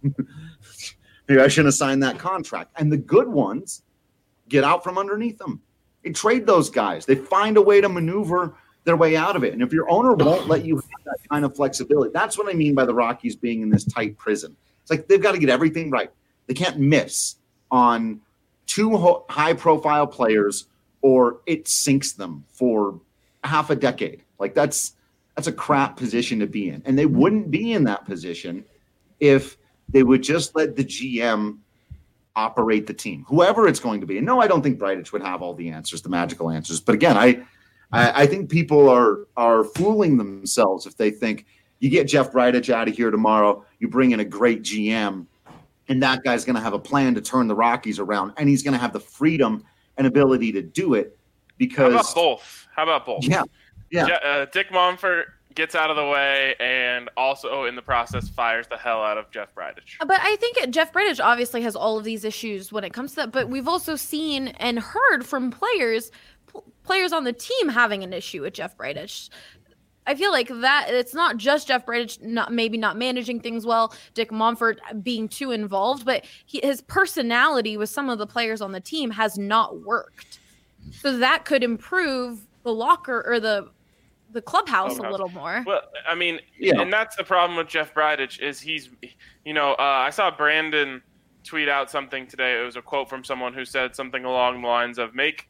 maybe I shouldn't have signed that contract. And the good ones get out from underneath them. They trade those guys. They find a way to maneuver their way out of it. And if your owner won't let you have that kind of flexibility, that's what I mean by the Rockies being in this tight prison. It's like they've got to get everything right. They can't miss on two ho- high-profile players, or it sinks them for half a decade. Like that's that's a crap position to be in. And they wouldn't be in that position if they would just let the G M operate the team, whoever it's going to be. And no, I don't think Bridich would have all the answers, the magical answers. But again, I I, I think people are are fooling themselves if they think you get Jeff Bridich out of here tomorrow, you bring in a great G M, and that guy's going to have a plan to turn the Rockies around, and he's going to have the freedom and ability to do it. Because how about both? How about both? Yeah, yeah. Je- uh, Dick Monfort gets out of the way, and also in the process fires the hell out of Jeff Bridich. But I think Jeff Bridich obviously has all of these issues when it comes to that. But we've also seen and heard from players, p- players on the team having an issue with Jeff Bridich. I feel like that it's not just Jeff Bridich not maybe not managing things well, Dick Monfort being too involved, but he, his personality with some of the players on the team has not worked. So that could improve the locker or the the clubhouse, clubhouse. a little more. Well, I mean, yeah. and that's the problem with Jeff Bridich is he's, you know, uh, I saw Brandon tweet out something today. It was a quote from someone who said something along the lines of make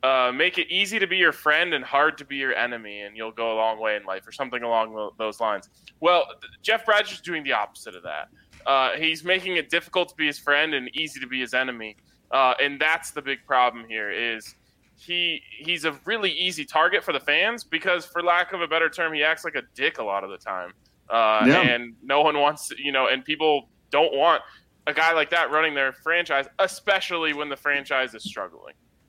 uh, make it easy to be your friend and hard to be your enemy, and you'll go a long way in life, or something along those lines. Well, Jeff Bridich is doing the opposite of that. Uh, he's making it difficult to be his friend and easy to be his enemy, uh, and that's the big problem here. Is he he's a really easy target for the fans because, for lack of a better term, he acts like a dick a lot of the time, uh, yeah. and no one wants, you know, and people don't want a guy like that running their franchise, especially when the franchise is struggling.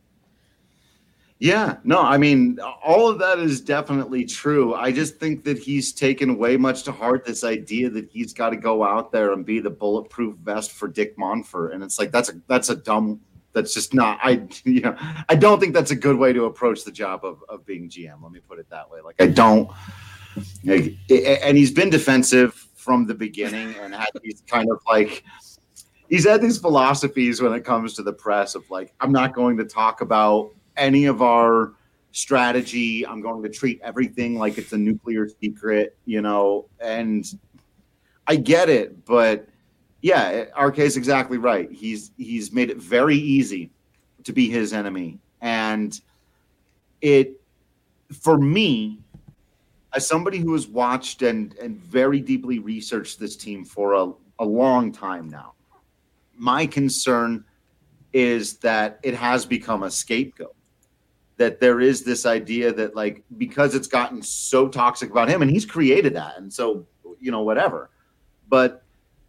Yeah, no, I mean, all of that is definitely true. I just think that he's taken way much to heart this idea that he's got to go out there and be the bulletproof vest for Dick Monfort. And it's like, that's a, that's a dumb, that's just not, I, you know, I don't think that's a good way to approach the job of, of being G M. Let me put it that way. Like, I don't, like, and he's been defensive from the beginning and had these kind of like, he's had these philosophies when it comes to the press of like, I'm not going to talk about any of our strategy. I'm going to treat everything like it's a nuclear secret, you know, and I get it, but yeah, R K is exactly right. He's, he's made it very easy to be his enemy. And it, for me, as somebody who has watched and, and very deeply researched this team for a, a long time now, my concern is that it has become a scapegoat. That there is this idea that, like, because it's gotten so toxic about him, and he's created that, and so, you know, whatever. But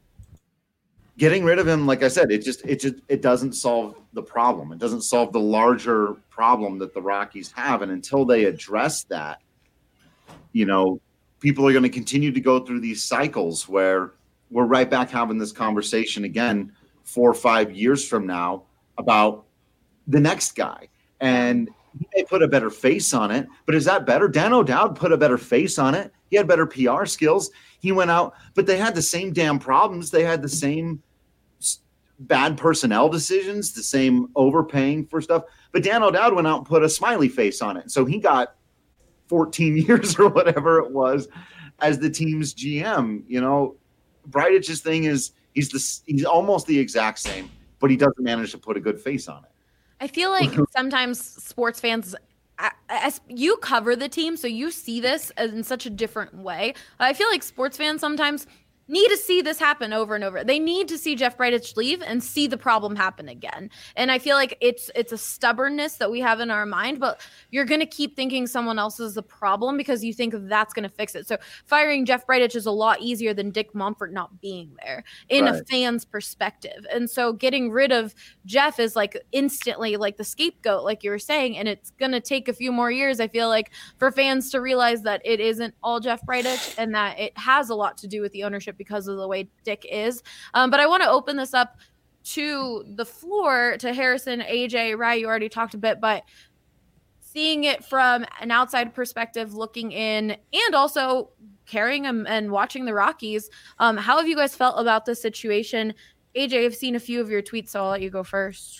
getting rid of him, like I said, it just it just it doesn't solve the problem. It doesn't solve the larger problem that the Rockies have, and until they address that, you know, people are going to continue to go through these cycles where we're right back having this conversation again four or five years from now about the next guy. And he may put a better face on it, but is that better? Dan O'Dowd put a better face on it. He had better P R skills. He went out, but they had the same damn problems. They had the same bad personnel decisions, the same overpaying for stuff. But Dan O'Dowd went out and put a smiley face on it. So he got fourteen years or whatever it was as the team's G M. You know, Bridich's thing is he's the he's almost the exact same, but he doesn't manage to put a good face on it. I feel like sometimes sports fans, as you cover the team, so you see this in such a different way. I feel like sports fans sometimes need to see this happen over and over. They need to see Jeff Bridich leave and see the problem happen again. And I feel like it's it's a stubbornness that we have in our mind, but you're going to keep thinking someone else is the problem because you think that's going to fix it. So firing Jeff Bridich is a lot easier than Dick Monfort not being there in right. a fan's perspective. And so getting rid of Jeff is like instantly like the scapegoat, like you were saying, and it's going to take a few more years, I feel like, for fans to realize that it isn't all Jeff Bridich and that it has a lot to do with the ownership because of the way Dick is. Um, but I want to open this up to the floor to Harrison, A J, Rye. You already talked a bit, but seeing it from an outside perspective, looking in, and also carrying them and watching the Rockies, um, how have you guys felt about this situation? A J, I've seen a few of your tweets, so I'll let you go first.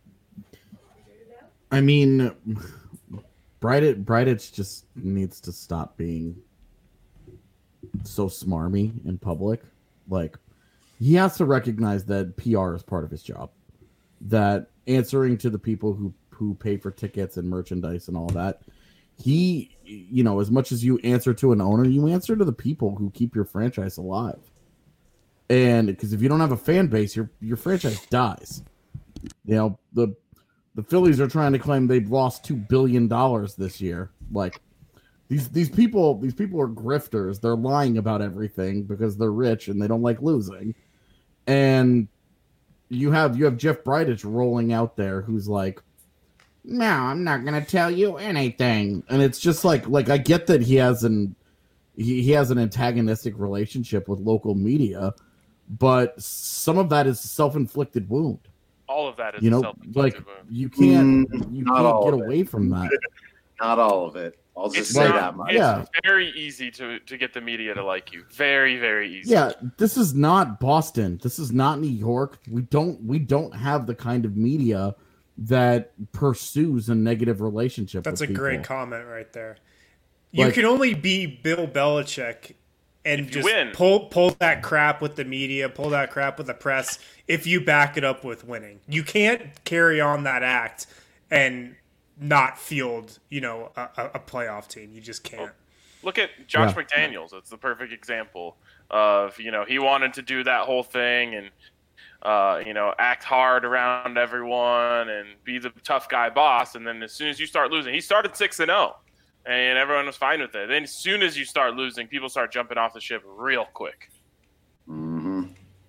I mean, Bridich, Bridich just needs to stop being so smarmy in public. Like, he has to recognize that P R is part of his job, that answering to the people who who pay for tickets and merchandise and all that, he, you know, as much as you answer to an owner, you answer to the people who keep your franchise alive. And because if you don't have a fan base, your your franchise dies. You know, the the Phillies are trying to claim they've lost two billion dollars this year. Like, These these people these people are grifters. They're lying about everything because they're rich and they don't like losing. And you have you have Jeff Bridich rolling out there who's like, no, I'm not gonna tell you anything. And it's just like like I get that he has an he, he has an antagonistic relationship with local media, but some of that is a self-inflicted wound. All of that is you know, self-inflicted like wound. you can't Mm, you not can't all get of away it. from that. Not all of it. I'll just It's say not- that much. It's Yeah. very easy to, to get the media to like you. Very, very easy. Yeah, this is not Boston. This is not New York. We don't we don't have the kind of media that pursues a negative relationship. That's with a people. great comment right there. You Like- can only be Bill Belichick and If you just win. pull pull that crap with the media, pull that crap with the press if you back it up with winning. You can't carry on that act and not field, you know, a, a playoff team. You just can't. Look at Josh Yeah. McDaniels. It's the perfect example of, you know, he wanted to do that whole thing and, uh, you know, act hard around everyone and be the tough guy boss. And then as soon as you start losing, he started six and oh, and everyone was fine with it. Then as soon as you start losing, people start jumping off the ship real quick. Mm-hmm.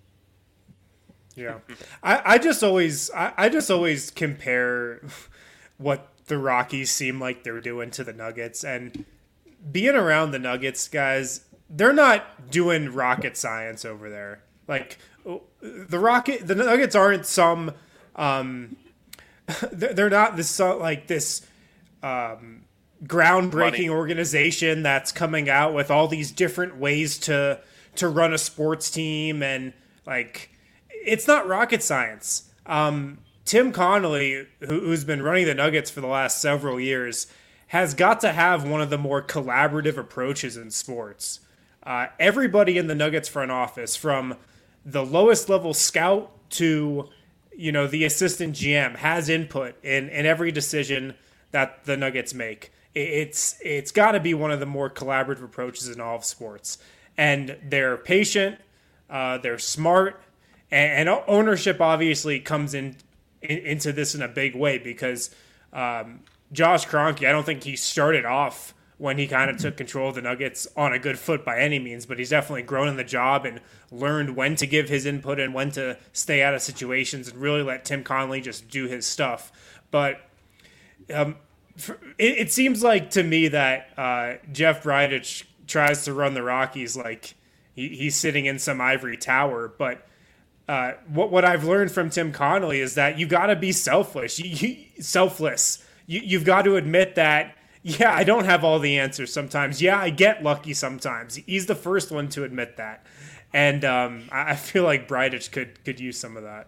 Yeah, I, I just always I, I just always compare what the Rockies seem like they're doing to the Nuggets, and being around the Nuggets, guys, they're not doing rocket science over there. Like the Rocket, the Nuggets aren't some, um, they're not this like this um, groundbreaking Money. organization that's coming out with all these different ways to to run a sports team, and like. It's not rocket science. Um, Tim Connolly, who, who's been running the Nuggets for the last several years, has got to have one of the more collaborative approaches in sports. Uh, everybody in the Nuggets front office, from the lowest level scout to, you know, the assistant G M, has input in, in every decision that the Nuggets make. It's it's got to be one of the more collaborative approaches in all of sports. And they're patient, uh, they're smart. And ownership obviously comes in, in into this in a big way because um, Josh Kroenke, I don't think he started off when he kind of took control of the Nuggets on a good foot by any means, but he's definitely grown in the job and learned when to give his input and when to stay out of situations and really let Tim Connolly just do his stuff. But um, for, it, it seems like to me that uh, Jeff Bridich tries to run the Rockies like he, he's sitting in some ivory tower, but Uh, what what I've learned from Tim Connolly is that you got to be selfless. You, you, selfless. You, you've got to admit that, yeah, I don't have all the answers sometimes. Yeah, I get lucky sometimes. He's the first one to admit that. And um, I, I feel like Bridich could, could use some of that.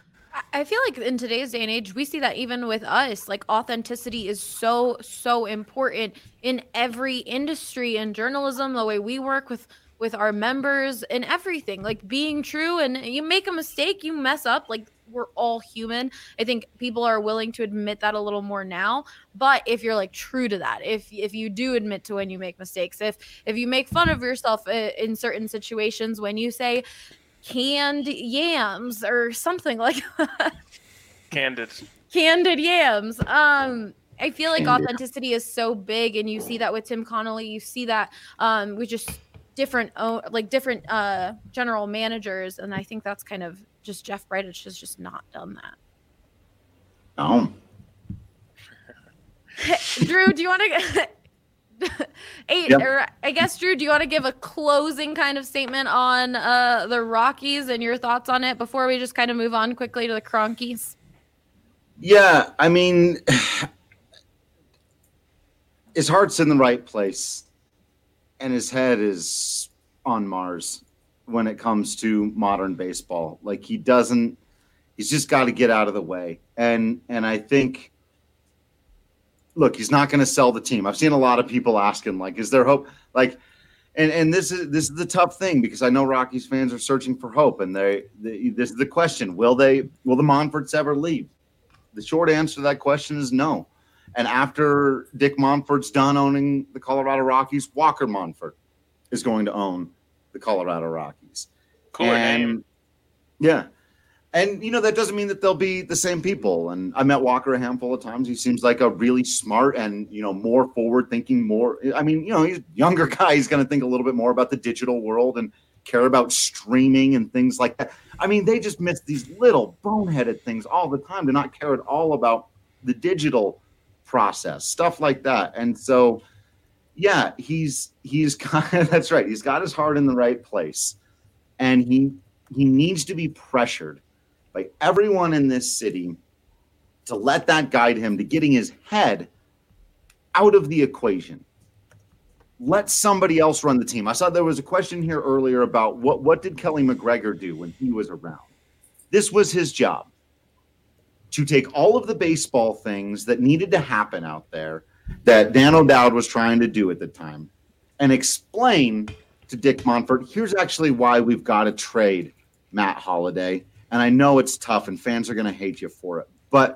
I feel like in today's day and age, we see that even with us, like authenticity is so, so important in every industry, in journalism, the way we work with with our members and everything, like being true. And you make a mistake, you mess up, like we're all human. I think people are willing to admit that a little more now. But if you're like true to that, if if you do admit to when you make mistakes, if if you make fun of yourself in certain situations, when you say canned yams or something like that. Candid. Candid yams. Um, I feel like authenticity is so big, and you see that with Tim Connolly. You see that um, with just different, like different uh, general managers, and I think that's kind of just Jeff Bridich has just not done that. Oh. Drew, do you want to? Hey, Yep. or I guess Drew, do you want to give a closing kind of statement on uh, the Rockies and your thoughts on it before we just kind of move on quickly to the Cronkies? Yeah, I mean, his heart's in the right place, and his head is on Mars when it comes to modern baseball. Like he doesn't, he's just got to get out of the way. And and I think, look, he's not going to sell the team. I've seen a lot of people asking, like, is there hope? Like, and and this is this is the tough thing because I know Rockies fans are searching for hope, and they, they this is the question: Will they? Will the Monforts ever leave? The short answer to that question is no. And after Dick Monfort's done owning the Colorado Rockies, Walker Monfort is going to own the Colorado Rockies. Cooler and, name. Yeah. And, you know, that doesn't mean that they'll be the same people. And I met Walker a handful of times. He seems like a really smart and, you know, more forward-thinking, more – I mean, you know, he's a younger guy. He's going to think a little bit more about the digital world and care about streaming and things like that. I mean, they just miss these little boneheaded things all the time to not care at all about the digital process, stuff like that. And so, yeah, he's he's kind of – that's right. He's got his heart in the right place. And he he needs to be pressured by everyone in this city to let that guide him to getting his head out of the equation. Let somebody else run the team. I saw there was a question here earlier about what, what did Kelly McGregor do when he was around? This was his job, to take all of the baseball things that needed to happen out there that Dan O'Dowd was trying to do at the time and explain to Dick Monfort, here's actually why we've got to trade Matt Holliday. And I know it's tough and fans are going to hate you for it, but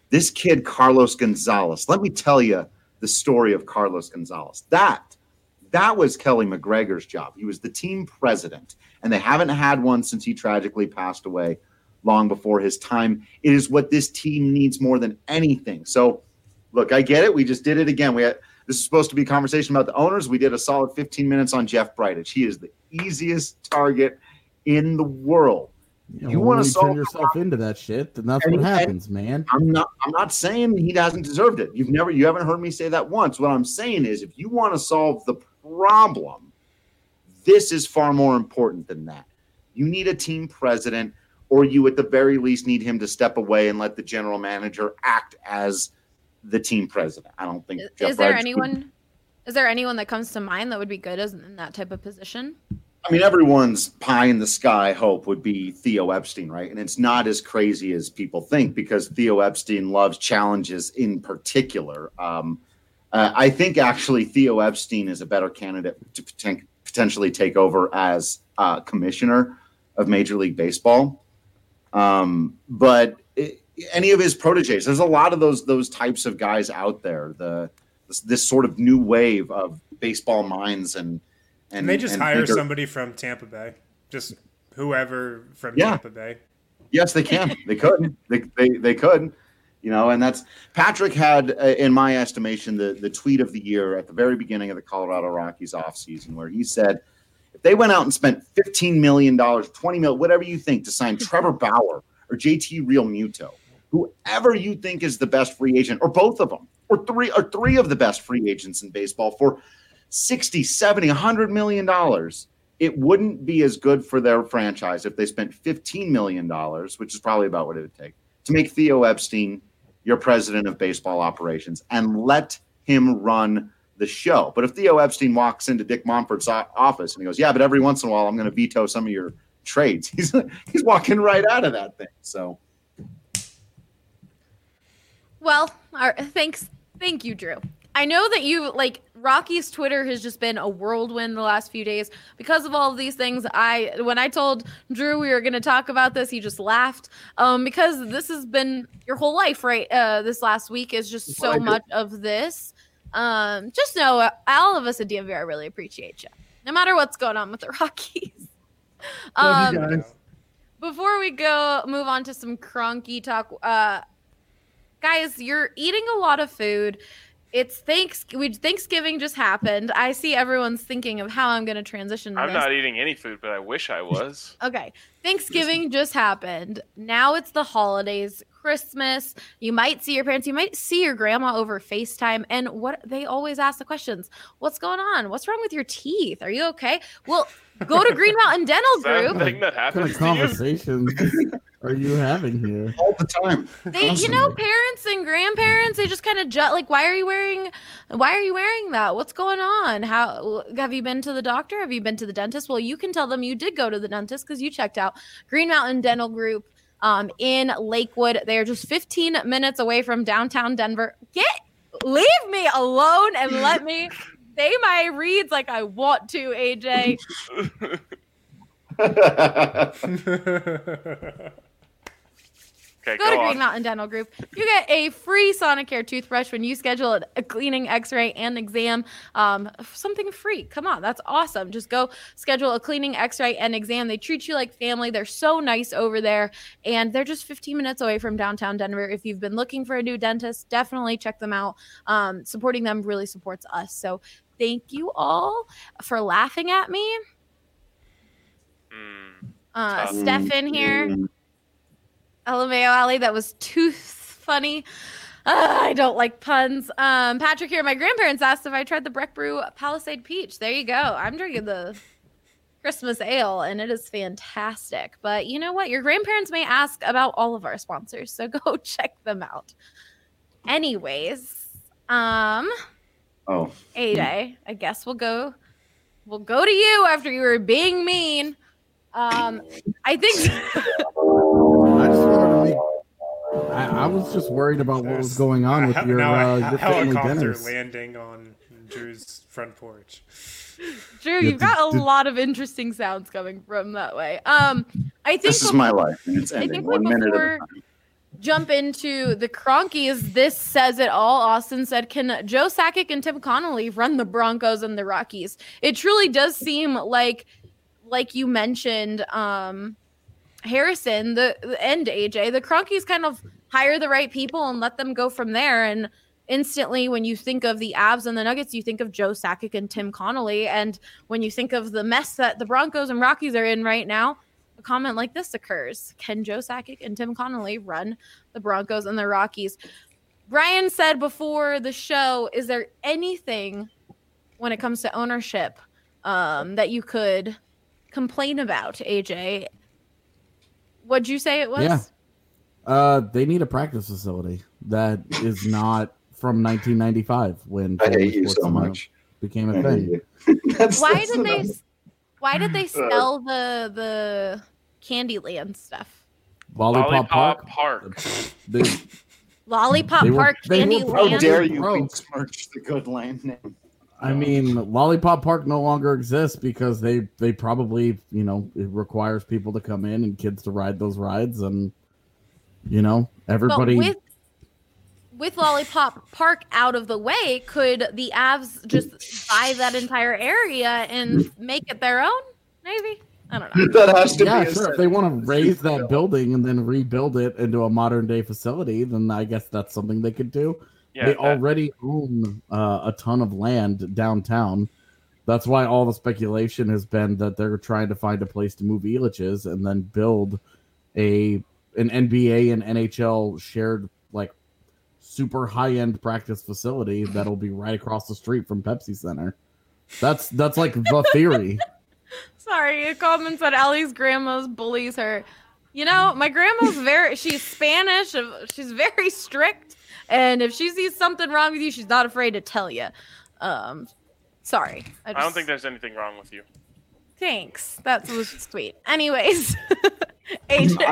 This kid, Carlos Gonzalez, let me tell you the story of Carlos Gonzalez. That, that was Kelly McGregor's job. He was the team president, and they haven't had one since he tragically passed away long before his time. It is what this team needs more than anything. So, look, I get it. We just did it again. We had, this is supposed to be a conversation about the owners. We did a solid fifteen minutes on Jeff Bridich. He is the easiest target in the world. You, you want to turn yourself into that shit, then that's and, what happens, man. I'm not. I'm not saying he hasn't deserved it. You've never. You haven't heard me say that once. What I'm saying is, if you want to solve the problem, this is far more important than that. You need a team president, or you at the very least need him to step away and let the general manager act as the team president. I don't think. Is, Jeff is there Bridich anyone? Would, is there anyone that comes to mind that would be good as in that type of position? I mean, everyone's pie in the sky hope would be Theo Epstein, right? And it's not as crazy as people think because Theo Epstein loves challenges in particular. Um, uh, I think actually Theo Epstein is a better candidate to poten- potentially take over as uh, commissioner of Major League Baseball. Um, but it, any of his proteges, there's a lot of those those types of guys out there. The this, this sort of new wave of baseball minds and. And, and they just and hire thinker. somebody from Tampa Bay, just whoever from Yeah. Tampa Bay. Yes, they can. They could. They, they they could. You know, and that's Patrick had, uh, in my estimation, the the tweet of the year at the very beginning of the Colorado Rockies offseason, where he said, if they went out and spent fifteen million dollars, twenty million dollars, whatever you think, to sign Trevor Bauer or J T Realmuto, whoever you think is the best free agent, or both of them, or three or three of the best free agents in baseball for sixty, seventy, one hundred million dollars, it wouldn't be as good for their franchise if they spent fifteen million dollars, which is probably about what it would take, to make Theo Epstein your president of baseball operations and let him run the show. But if Theo Epstein walks into Dick Monfort's office and he goes, yeah, but every once in a while I'm going to veto some of your trades, he's he's walking right out of that thing. So, well, our, thanks, thank you, Drew. I know that you like Rocky's Twitter has just been a whirlwind the last few days because of all of these things. I when I told Drew we were going to talk about this, he just laughed um, because this has been your whole life, right? Uh, this last week is just so much of this. Um, just know, uh, all of us at D M V R really appreciate you, no matter what's going on with the Rockies. Love you Um, guys. before we go, move on to some Cronky talk. Uh, guys, you're eating a lot of food. It's thanks. We Thanksgiving just happened. I see everyone's thinking of how I'm going to transition. I'm this. not eating any food, but I wish I was. Okay. Thanksgiving just happened. Now it's the holidays, Christmas. You might see your parents. You might see your grandma over FaceTime. And what they always ask the questions: what's going on? What's wrong with your teeth? Are you okay? Well, go to Green Mountain Dental Is that a Group. thing that What kind happens of to you? conversations are you having here? all the time. They, you know, parents and grandparents, they just kind of ju- like, why are you wearing, why are you wearing that? What's going on? How have you been to the doctor? Have you been to the dentist? Well, you can tell them you did go to the dentist because you checked out Green Mountain Dental Group um, in Lakewood. They are just fifteen minutes away from downtown Denver. Get, leave me alone and let me say my reads like I want to, A J. Okay, Go go to on. Green Mountain Dental Group. You get a free Sonicare toothbrush when you schedule a cleaning, x-ray, and exam. Um, something free. Come on, that's awesome. Just go schedule a cleaning, x-ray, and exam. They treat you like family. They're so nice over there, and they're just fifteen minutes away from downtown Denver. If you've been looking for a new dentist, definitely check them out. Um, supporting them really supports us. So thank you all for laughing at me. Mm. Uh, Tough. Stefan here. L M A O Ali, that was too funny. Uh, I don't like puns. Um, Patrick here. My grandparents asked if I tried the Breck Brew Palisade Peach. There you go. I'm drinking the Christmas ale, and it is fantastic. But you know what? Your grandparents may ask about all of our sponsors, so go check them out. Anyways, um, Oh, A J, I guess we'll go. We'll go to you after you were being mean. Um, I think. I just wanted to make. I, I was just worried about what was going on with your, now uh, a your family helicopter dinners. landing on Drew's front porch. Drew, you've got a lot of interesting sounds coming from that way. Um, I think this is before, my life, and it's I ending think one we minute at before a time. jump into the Cronkies, this says it all. Austin said, can Joe Sakic and Tim Connolly run the Broncos and the Rockies? It truly does seem like, like you mentioned, um, Harrison, the, the and A J, the Cronkies kind of hire the right people and let them go from there. And instantly, when you think of the Avs and the Nuggets, you think of Joe Sakic and Tim Connolly. And when you think of the mess that the Broncos and Rockies are in right now, a comment like this occurs. Can Joe Sakic and Tim Connolly run the Broncos and the Rockies? Brian said before the show, is there anything when it comes to ownership um, that you could complain about, A J? What'd you say it was? Yeah. Uh, they need a practice facility that is not from nineteen ninety-five when I hate you so much became a thing. that's, Why that's did they? enough. Why did they sell the the Candyland stuff? Lollipop, Lollipop Park. Park. They, Lollipop They were- Park, they were How Candyland. dare you Broke. besmirch the good land name? I mean, Lollipop Park no longer exists because they they probably, you know, it requires people to come in and kids to ride those rides, and you know, everybody. But with with Lollipop Park out of the way, could the Avs just buy that entire area and make it their own? Maybe. I don't know. That has to Yeah, be a sure. If they want to raise that building and then rebuild it into a modern day facility, then I guess that's something they could do. Yeah, they that- already own uh, a ton of land downtown. That's why all the speculation has been that they're trying to find a place to move Elitch's and then build a an N B A and N H L shared like super high end practice facility that'll be right across the street from Pepsi Center. That's that's like the theory. Sorry, a comment said Allie's grandma's bullies her. You know, my grandma's very, she's Spanish, she's very strict, and if she sees something wrong with you, she's not afraid to tell you. Um, sorry. I, just, I don't think there's anything wrong with you. Thanks. That was sweet. Anyways, A J,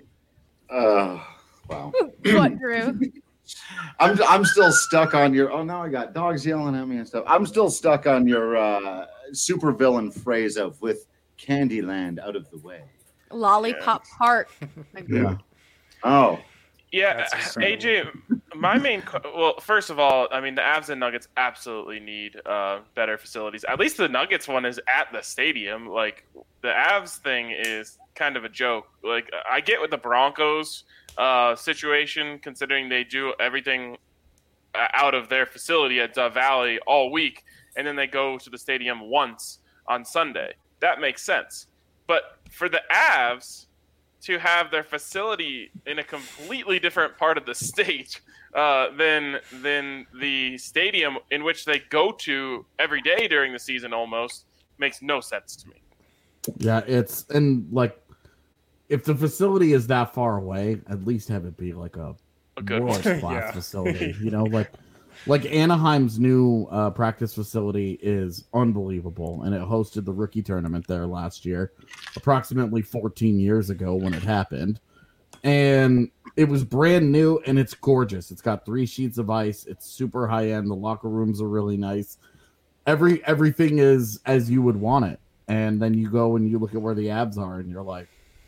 I, uh, wow. what grew? I'm I'm still stuck on your. Oh, now I got dogs yelling at me and stuff. I'm still stuck on your uh, supervillain phrase of with Candyland out of the way. Lollipop Park. Yeah. Oh, Yeah, That's A J, my main co- well, first of all, I mean the Avs and Nuggets absolutely need uh, better facilities. At least the Nuggets one is at the stadium. Like the Avs thing is kind of a joke. Like I get with the Broncos uh, situation, considering they do everything out of their facility at Dove Valley all week, and then they go to the stadium once on Sunday. That makes sense. But for the Avs to have their facility in a completely different part of the state uh, than than the stadium in which they go to every day during the season almost makes no sense to me. Yeah, it's and like if the facility is that far away, at least have it be like a, A good world one. class Yeah. facility. You know, like like Anaheim's new uh, practice facility is unbelievable, and it hosted the rookie tournament there last year, approximately fourteen years ago when it happened, and it was brand new and it's gorgeous. It's got three sheets of ice. It's super high end. The locker rooms are really nice. Every everything is as you would want it. And then you go and you look at where the Avs are, and you're like,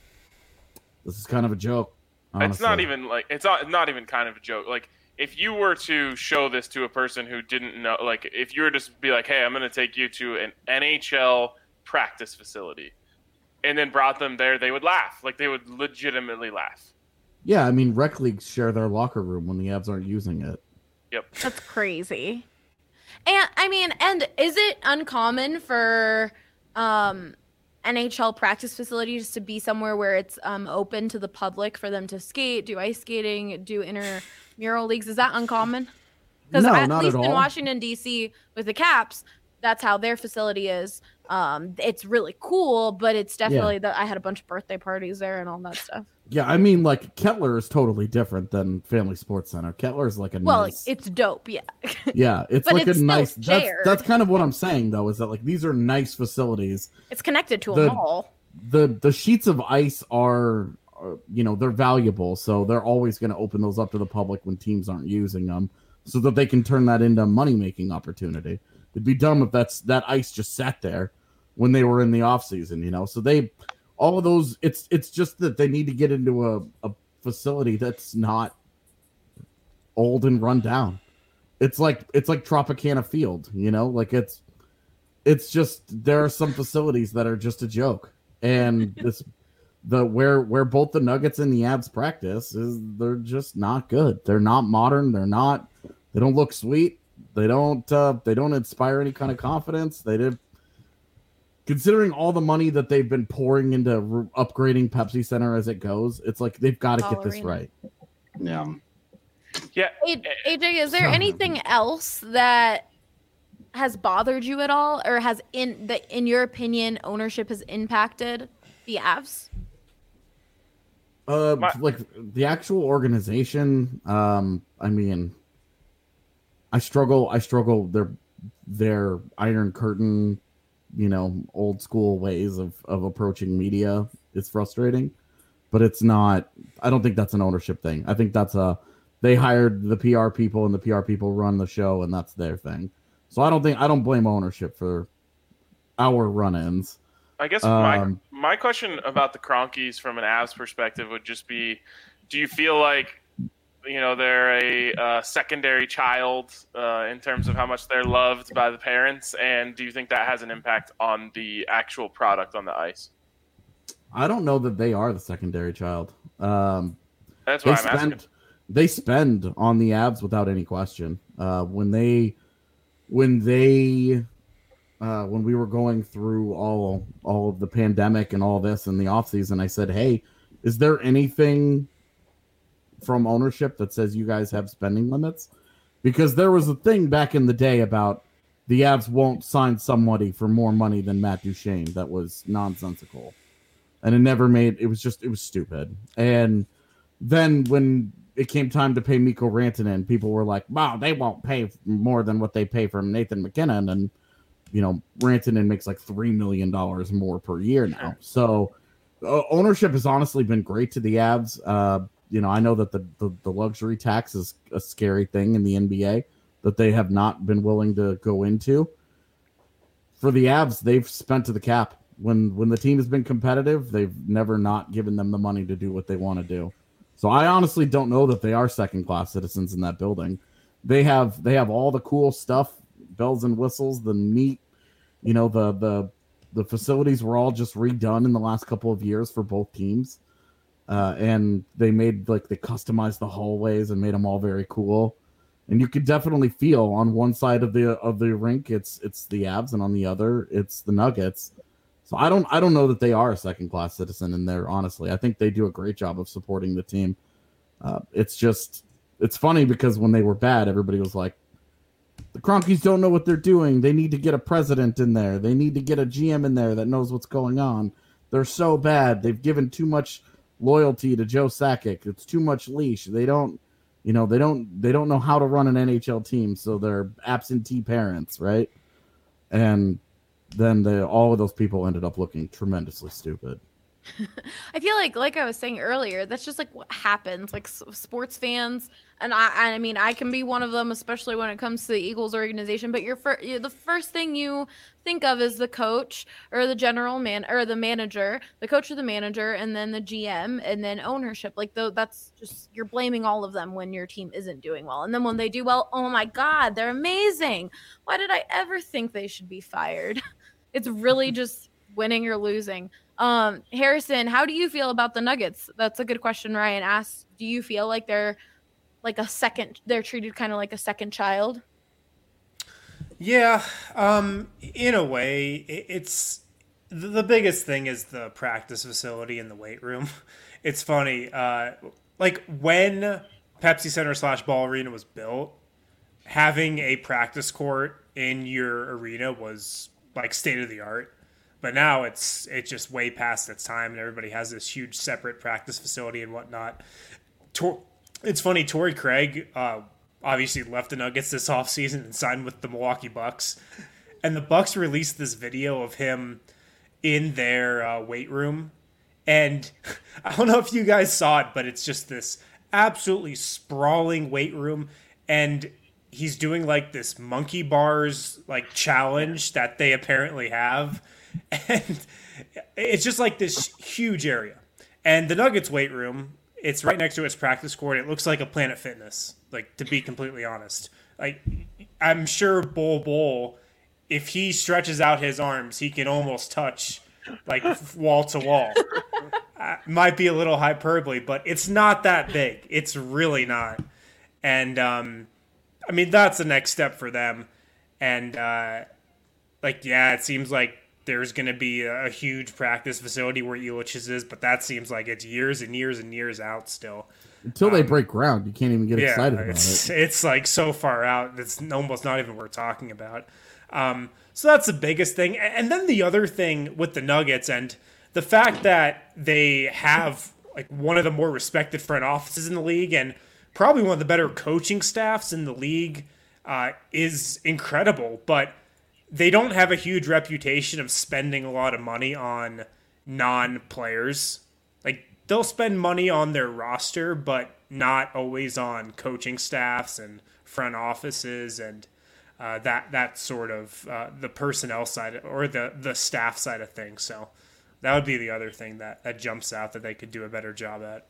"This is kind of a joke." Honestly. It's not even like it's not not even kind of a joke. Like if you were to show this to a person who didn't know, like if you were to be like, "Hey, I'm going to take you to an N H L practice facility," and then brought them there, they would laugh. Like they would legitimately laugh. Yeah, I mean, rec leagues share their locker room when the Avs aren't using it. Yep. That's crazy. And I mean, and is it uncommon for um, N H L practice facilities to be somewhere where it's um, open to the public for them to skate, do ice skating, do intramural leagues? Is that uncommon? Because No, at not least at in all. Washington, D C with the Caps, that's how their facility is. Um, it's really cool, but it's definitely that I had a bunch of birthday parties there and all that stuff. Yeah, I mean, like Kettler is totally different than Family Sports Center. Kettler is like a Well, nice. it's dope, yeah. Yeah, it's But like it's a still nice. That's, shared. that's kind of what I'm saying, though, is that like these are nice facilities. It's connected to a The- mall. the The sheets of ice are, are you know, they're valuable, so they're always going to open those up to the public when teams aren't using them, so that they can turn that into a money making opportunity. It'd be dumb if that's that ice just sat there when they were in the off season, you know. So they, all of those, it's it's just that they need to get into a, a facility that's not old and run down. It's like it's like Tropicana Field, you know, like it's it's just there are some facilities that are just a joke, and this the where where both the Nuggets and the Avs practice is they're just not good. They're not modern. They're not. They don't look sweet. They don't. Uh, they don't inspire any kind of confidence. They did. Considering all the money that they've been pouring into re- upgrading Pepsi Center as it goes, it's like they've got to get this right. Yeah. Yeah. A J, is there anything else that has bothered you at all, or has in that, in your opinion, ownership has impacted the Avs? Uh, My- like the actual organization. Um, I mean, I struggle. I struggle. Their their Iron Curtain, you know, old school ways of of approaching media is frustrating, but it's not. I don't think that's an ownership thing. I think that's a they hired the P R people and the P R people run the show and that's their thing. So I don't think I don't blame ownership for our run-ins. I guess Um, my my question about the Cronkies from an Avs perspective would just be, do you feel like, you know, they're a uh, secondary child uh, in terms of how much they're loved by the parents, and do you think that has an impact on the actual product on the ice? I don't know that they are the secondary child. Um, That's they what I'm spend asking. they spend on the Avs without any question. Uh, when they when they uh, when we were going through all all of the pandemic and all this in the offseason, I said, "Hey, is there anything from ownership that says you guys have spending limits?" Because there was a thing back in the day about the Avs won't sign somebody for more money than Matt Duchene that was nonsensical. And it never made it was just it was stupid. And then when it came time to pay Mikko Rantanen, people were like, wow, they won't pay more than what they pay for Nathan McKinnon. And you know, Rantanen makes like three million dollars more per year now. So uh, ownership has honestly been great to the Avs. Uh, you know, I know that the, the, the luxury tax is a scary thing in the N B A that they have not been willing to go into. For the Avs, they've spent to the cap. When when the team has been competitive, they've never not given them the money to do what they want to do. So I honestly don't know that they are second-class citizens in that building. They have they have all the cool stuff, bells and whistles, the neat, you know, the the the facilities were all just redone in the last couple of years for both teams. Uh, and they made like they customized the hallways and made them all very cool. And you could definitely feel on one side of the of the rink it's it's the Avs, and on the other it's the Nuggets. So I don't I don't know that they are a second class citizen in there. Honestly, I think they do a great job of supporting the team. Uh, it's just it's funny because when they were bad, everybody was like, the Cronkies don't know what they're doing. They need to get a president in there. They need to get a G M in there that knows what's going on. They're so bad. They've given too much loyalty to Joe Sakic. It's too much leash. They don't, you know, they don't they don't know how to run an N H L team, so they're absentee parents, right? And then the, all of those people ended up looking tremendously stupid. I feel like, like I was saying earlier, that's just like what happens. Like s- sports fans, and I, I mean, I can be one of them, especially when it comes to the Eagles organization. But you're, fir- you're the first thing you think of is the coach or the general man or the manager, the coach or the manager, and then the G M, and then ownership. Like though, that's just you're blaming all of them when your team isn't doing well, and then when they do well, oh my God, they're amazing. Why did I ever think they should be fired? It's really just winning or losing. Um, Harrison, how do you feel about the Nuggets? That's a good question. Ryan asked, do you feel like they're like a second, they're treated kind of like a second child? Yeah, um, in a way, it, it's the, the biggest thing is the practice facility and the weight room. It's funny, uh, like when Pepsi Center slash Ball Arena was built, having a practice court in your arena was like state of the art. But now it's it's just way past its time, and everybody has this huge separate practice facility and whatnot. Tor- it's funny, Torrey Craig uh, obviously left the Nuggets this offseason and signed with the Milwaukee Bucks. And the Bucks released this video of him in their uh, weight room. And I don't know if you guys saw it, but it's just this absolutely sprawling weight room. And he's doing like this monkey bars like challenge that they apparently have. And it's just like this huge area. And the Nuggets weight room It's right next to its practice court. It looks like a Planet Fitness, like, to be completely honest. Like, I'm sure Bol Bol, if he stretches out his arms, he can almost touch, like, wall to wall. Uh, might be a little hyperbole, but it's not that big. It's really not. And, um, I mean, that's the next step for them. And, uh, like, yeah, it seems like there's going to be a, a huge practice facility where Ilitch's is, but that seems like it's years and years and years out still. Until they um, break ground, you can't even get yeah, excited about it's, it. It's like so far out, it's almost not even worth talking about. Um, so that's the biggest thing. And then the other thing with the Nuggets and the fact that they have like one of the more respected front offices in the league and probably one of the better coaching staffs in the league uh, is incredible. But they don't have a huge reputation of spending a lot of money on non-players. Like, they'll spend money on their roster, but not always on coaching staffs and front offices and uh, that that sort of uh, the personnel side or the, the staff side of things. So that would be the other thing that, that jumps out that they could do a better job at.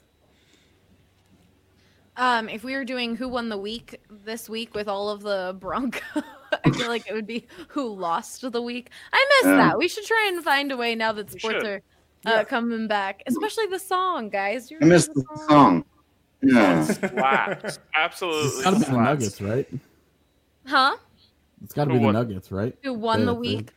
Um, if we were doing who won the week this week with all of the Broncos, I feel like it would be who lost the week. I miss Yeah. that. We should try and find a way now that We sports should. are uh, coming back, especially the song, guys. Do you I missed remember the song. Yeah. Slaps. Absolutely. It's got to be the slaps. Nuggets, right? Huh? It's got to Who be the won? Nuggets, right? Who won They- the they- week?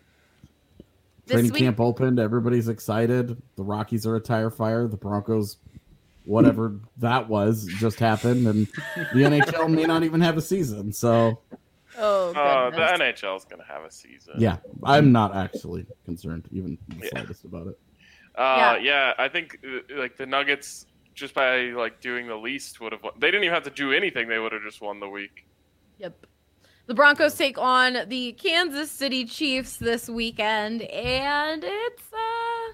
This Training week? camp opened. Everybody's excited. The Rockies are a tire fire. The Broncos, whatever that was, just happened. And the N H L may not even have a season. So, Oh, Uh, goodness. the N H L is going to have a season. yeah, I'm not actually concerned even the Yeah. slightest about it. Uh, yeah. I think uh, like the Nuggets, just by like doing the least, would have won. They didn't even have to do anything. They would have just won the week. Yep. The Broncos take on the Kansas City Chiefs this weekend, and it's uh,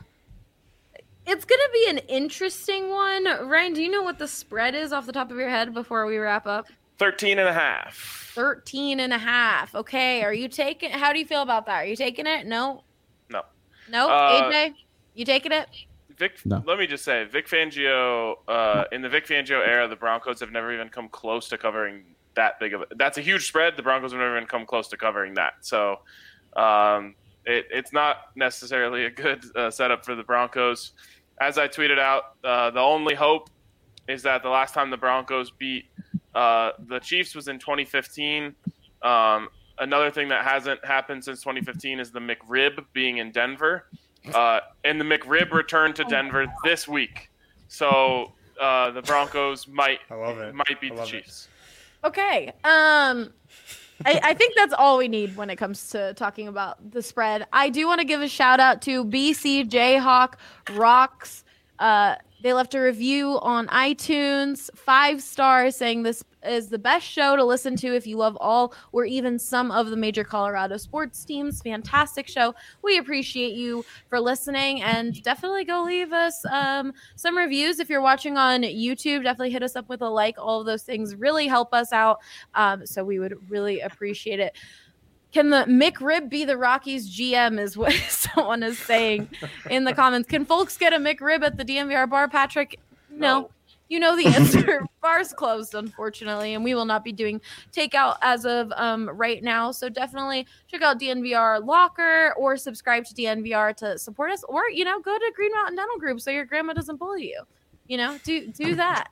it's gonna be an interesting one. Ryan, do you know what the spread is off the top of your head before we wrap up? thirteen and a half. thirteen and a half. Okay, are you taking? How do you feel about that? Are you taking it? No. No. No. Uh, A J, you taking it? Vic, No. let me just say, Vic Fangio, uh, in the Vic Fangio era, the Broncos have never even come close to covering that big of a. That's a huge spread. The Broncos have never even come close to covering that. So, um, it, it's not necessarily a good uh, setup for the Broncos. As I tweeted out, uh, the only hope is that the last time the Broncos beat uh, the Chiefs was in twenty fifteen. Um, another thing that hasn't happened since twenty fifteen is the McRib being in Denver. Uh, and the McRib returned to Denver this week. So uh, the Broncos might I love it. might beat I the love it. Chiefs. Okay. Um, I, I think that's all we need when it comes to talking about the spread. I do want to give a shout out to B C Jayhawk Rocks. Uh, they left a review on iTunes, five stars, saying this is the best show to listen to if you love all or even some of the major Colorado sports teams. Fantastic show. We appreciate you for listening, and definitely go leave us um, some reviews. If you're watching on YouTube, definitely hit us up with a like. All of those things really help us out, um, so we would really appreciate it. Can the McRib be the Rockies G M is what someone is saying in the comments. Can folks get a McRib at the D N V R bar, Patrick? No. No. You know the answer. Bar's closed, unfortunately, and we will not be doing takeout as of um, right now. So definitely check out D N V R Locker or subscribe to D N V R to support us, or, you know, go to Green Mountain Dental Group so your grandma doesn't bully you. You know, do do that.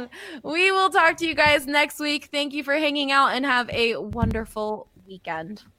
We will talk to you guys next week. Thank you for hanging out and have a wonderful weekend.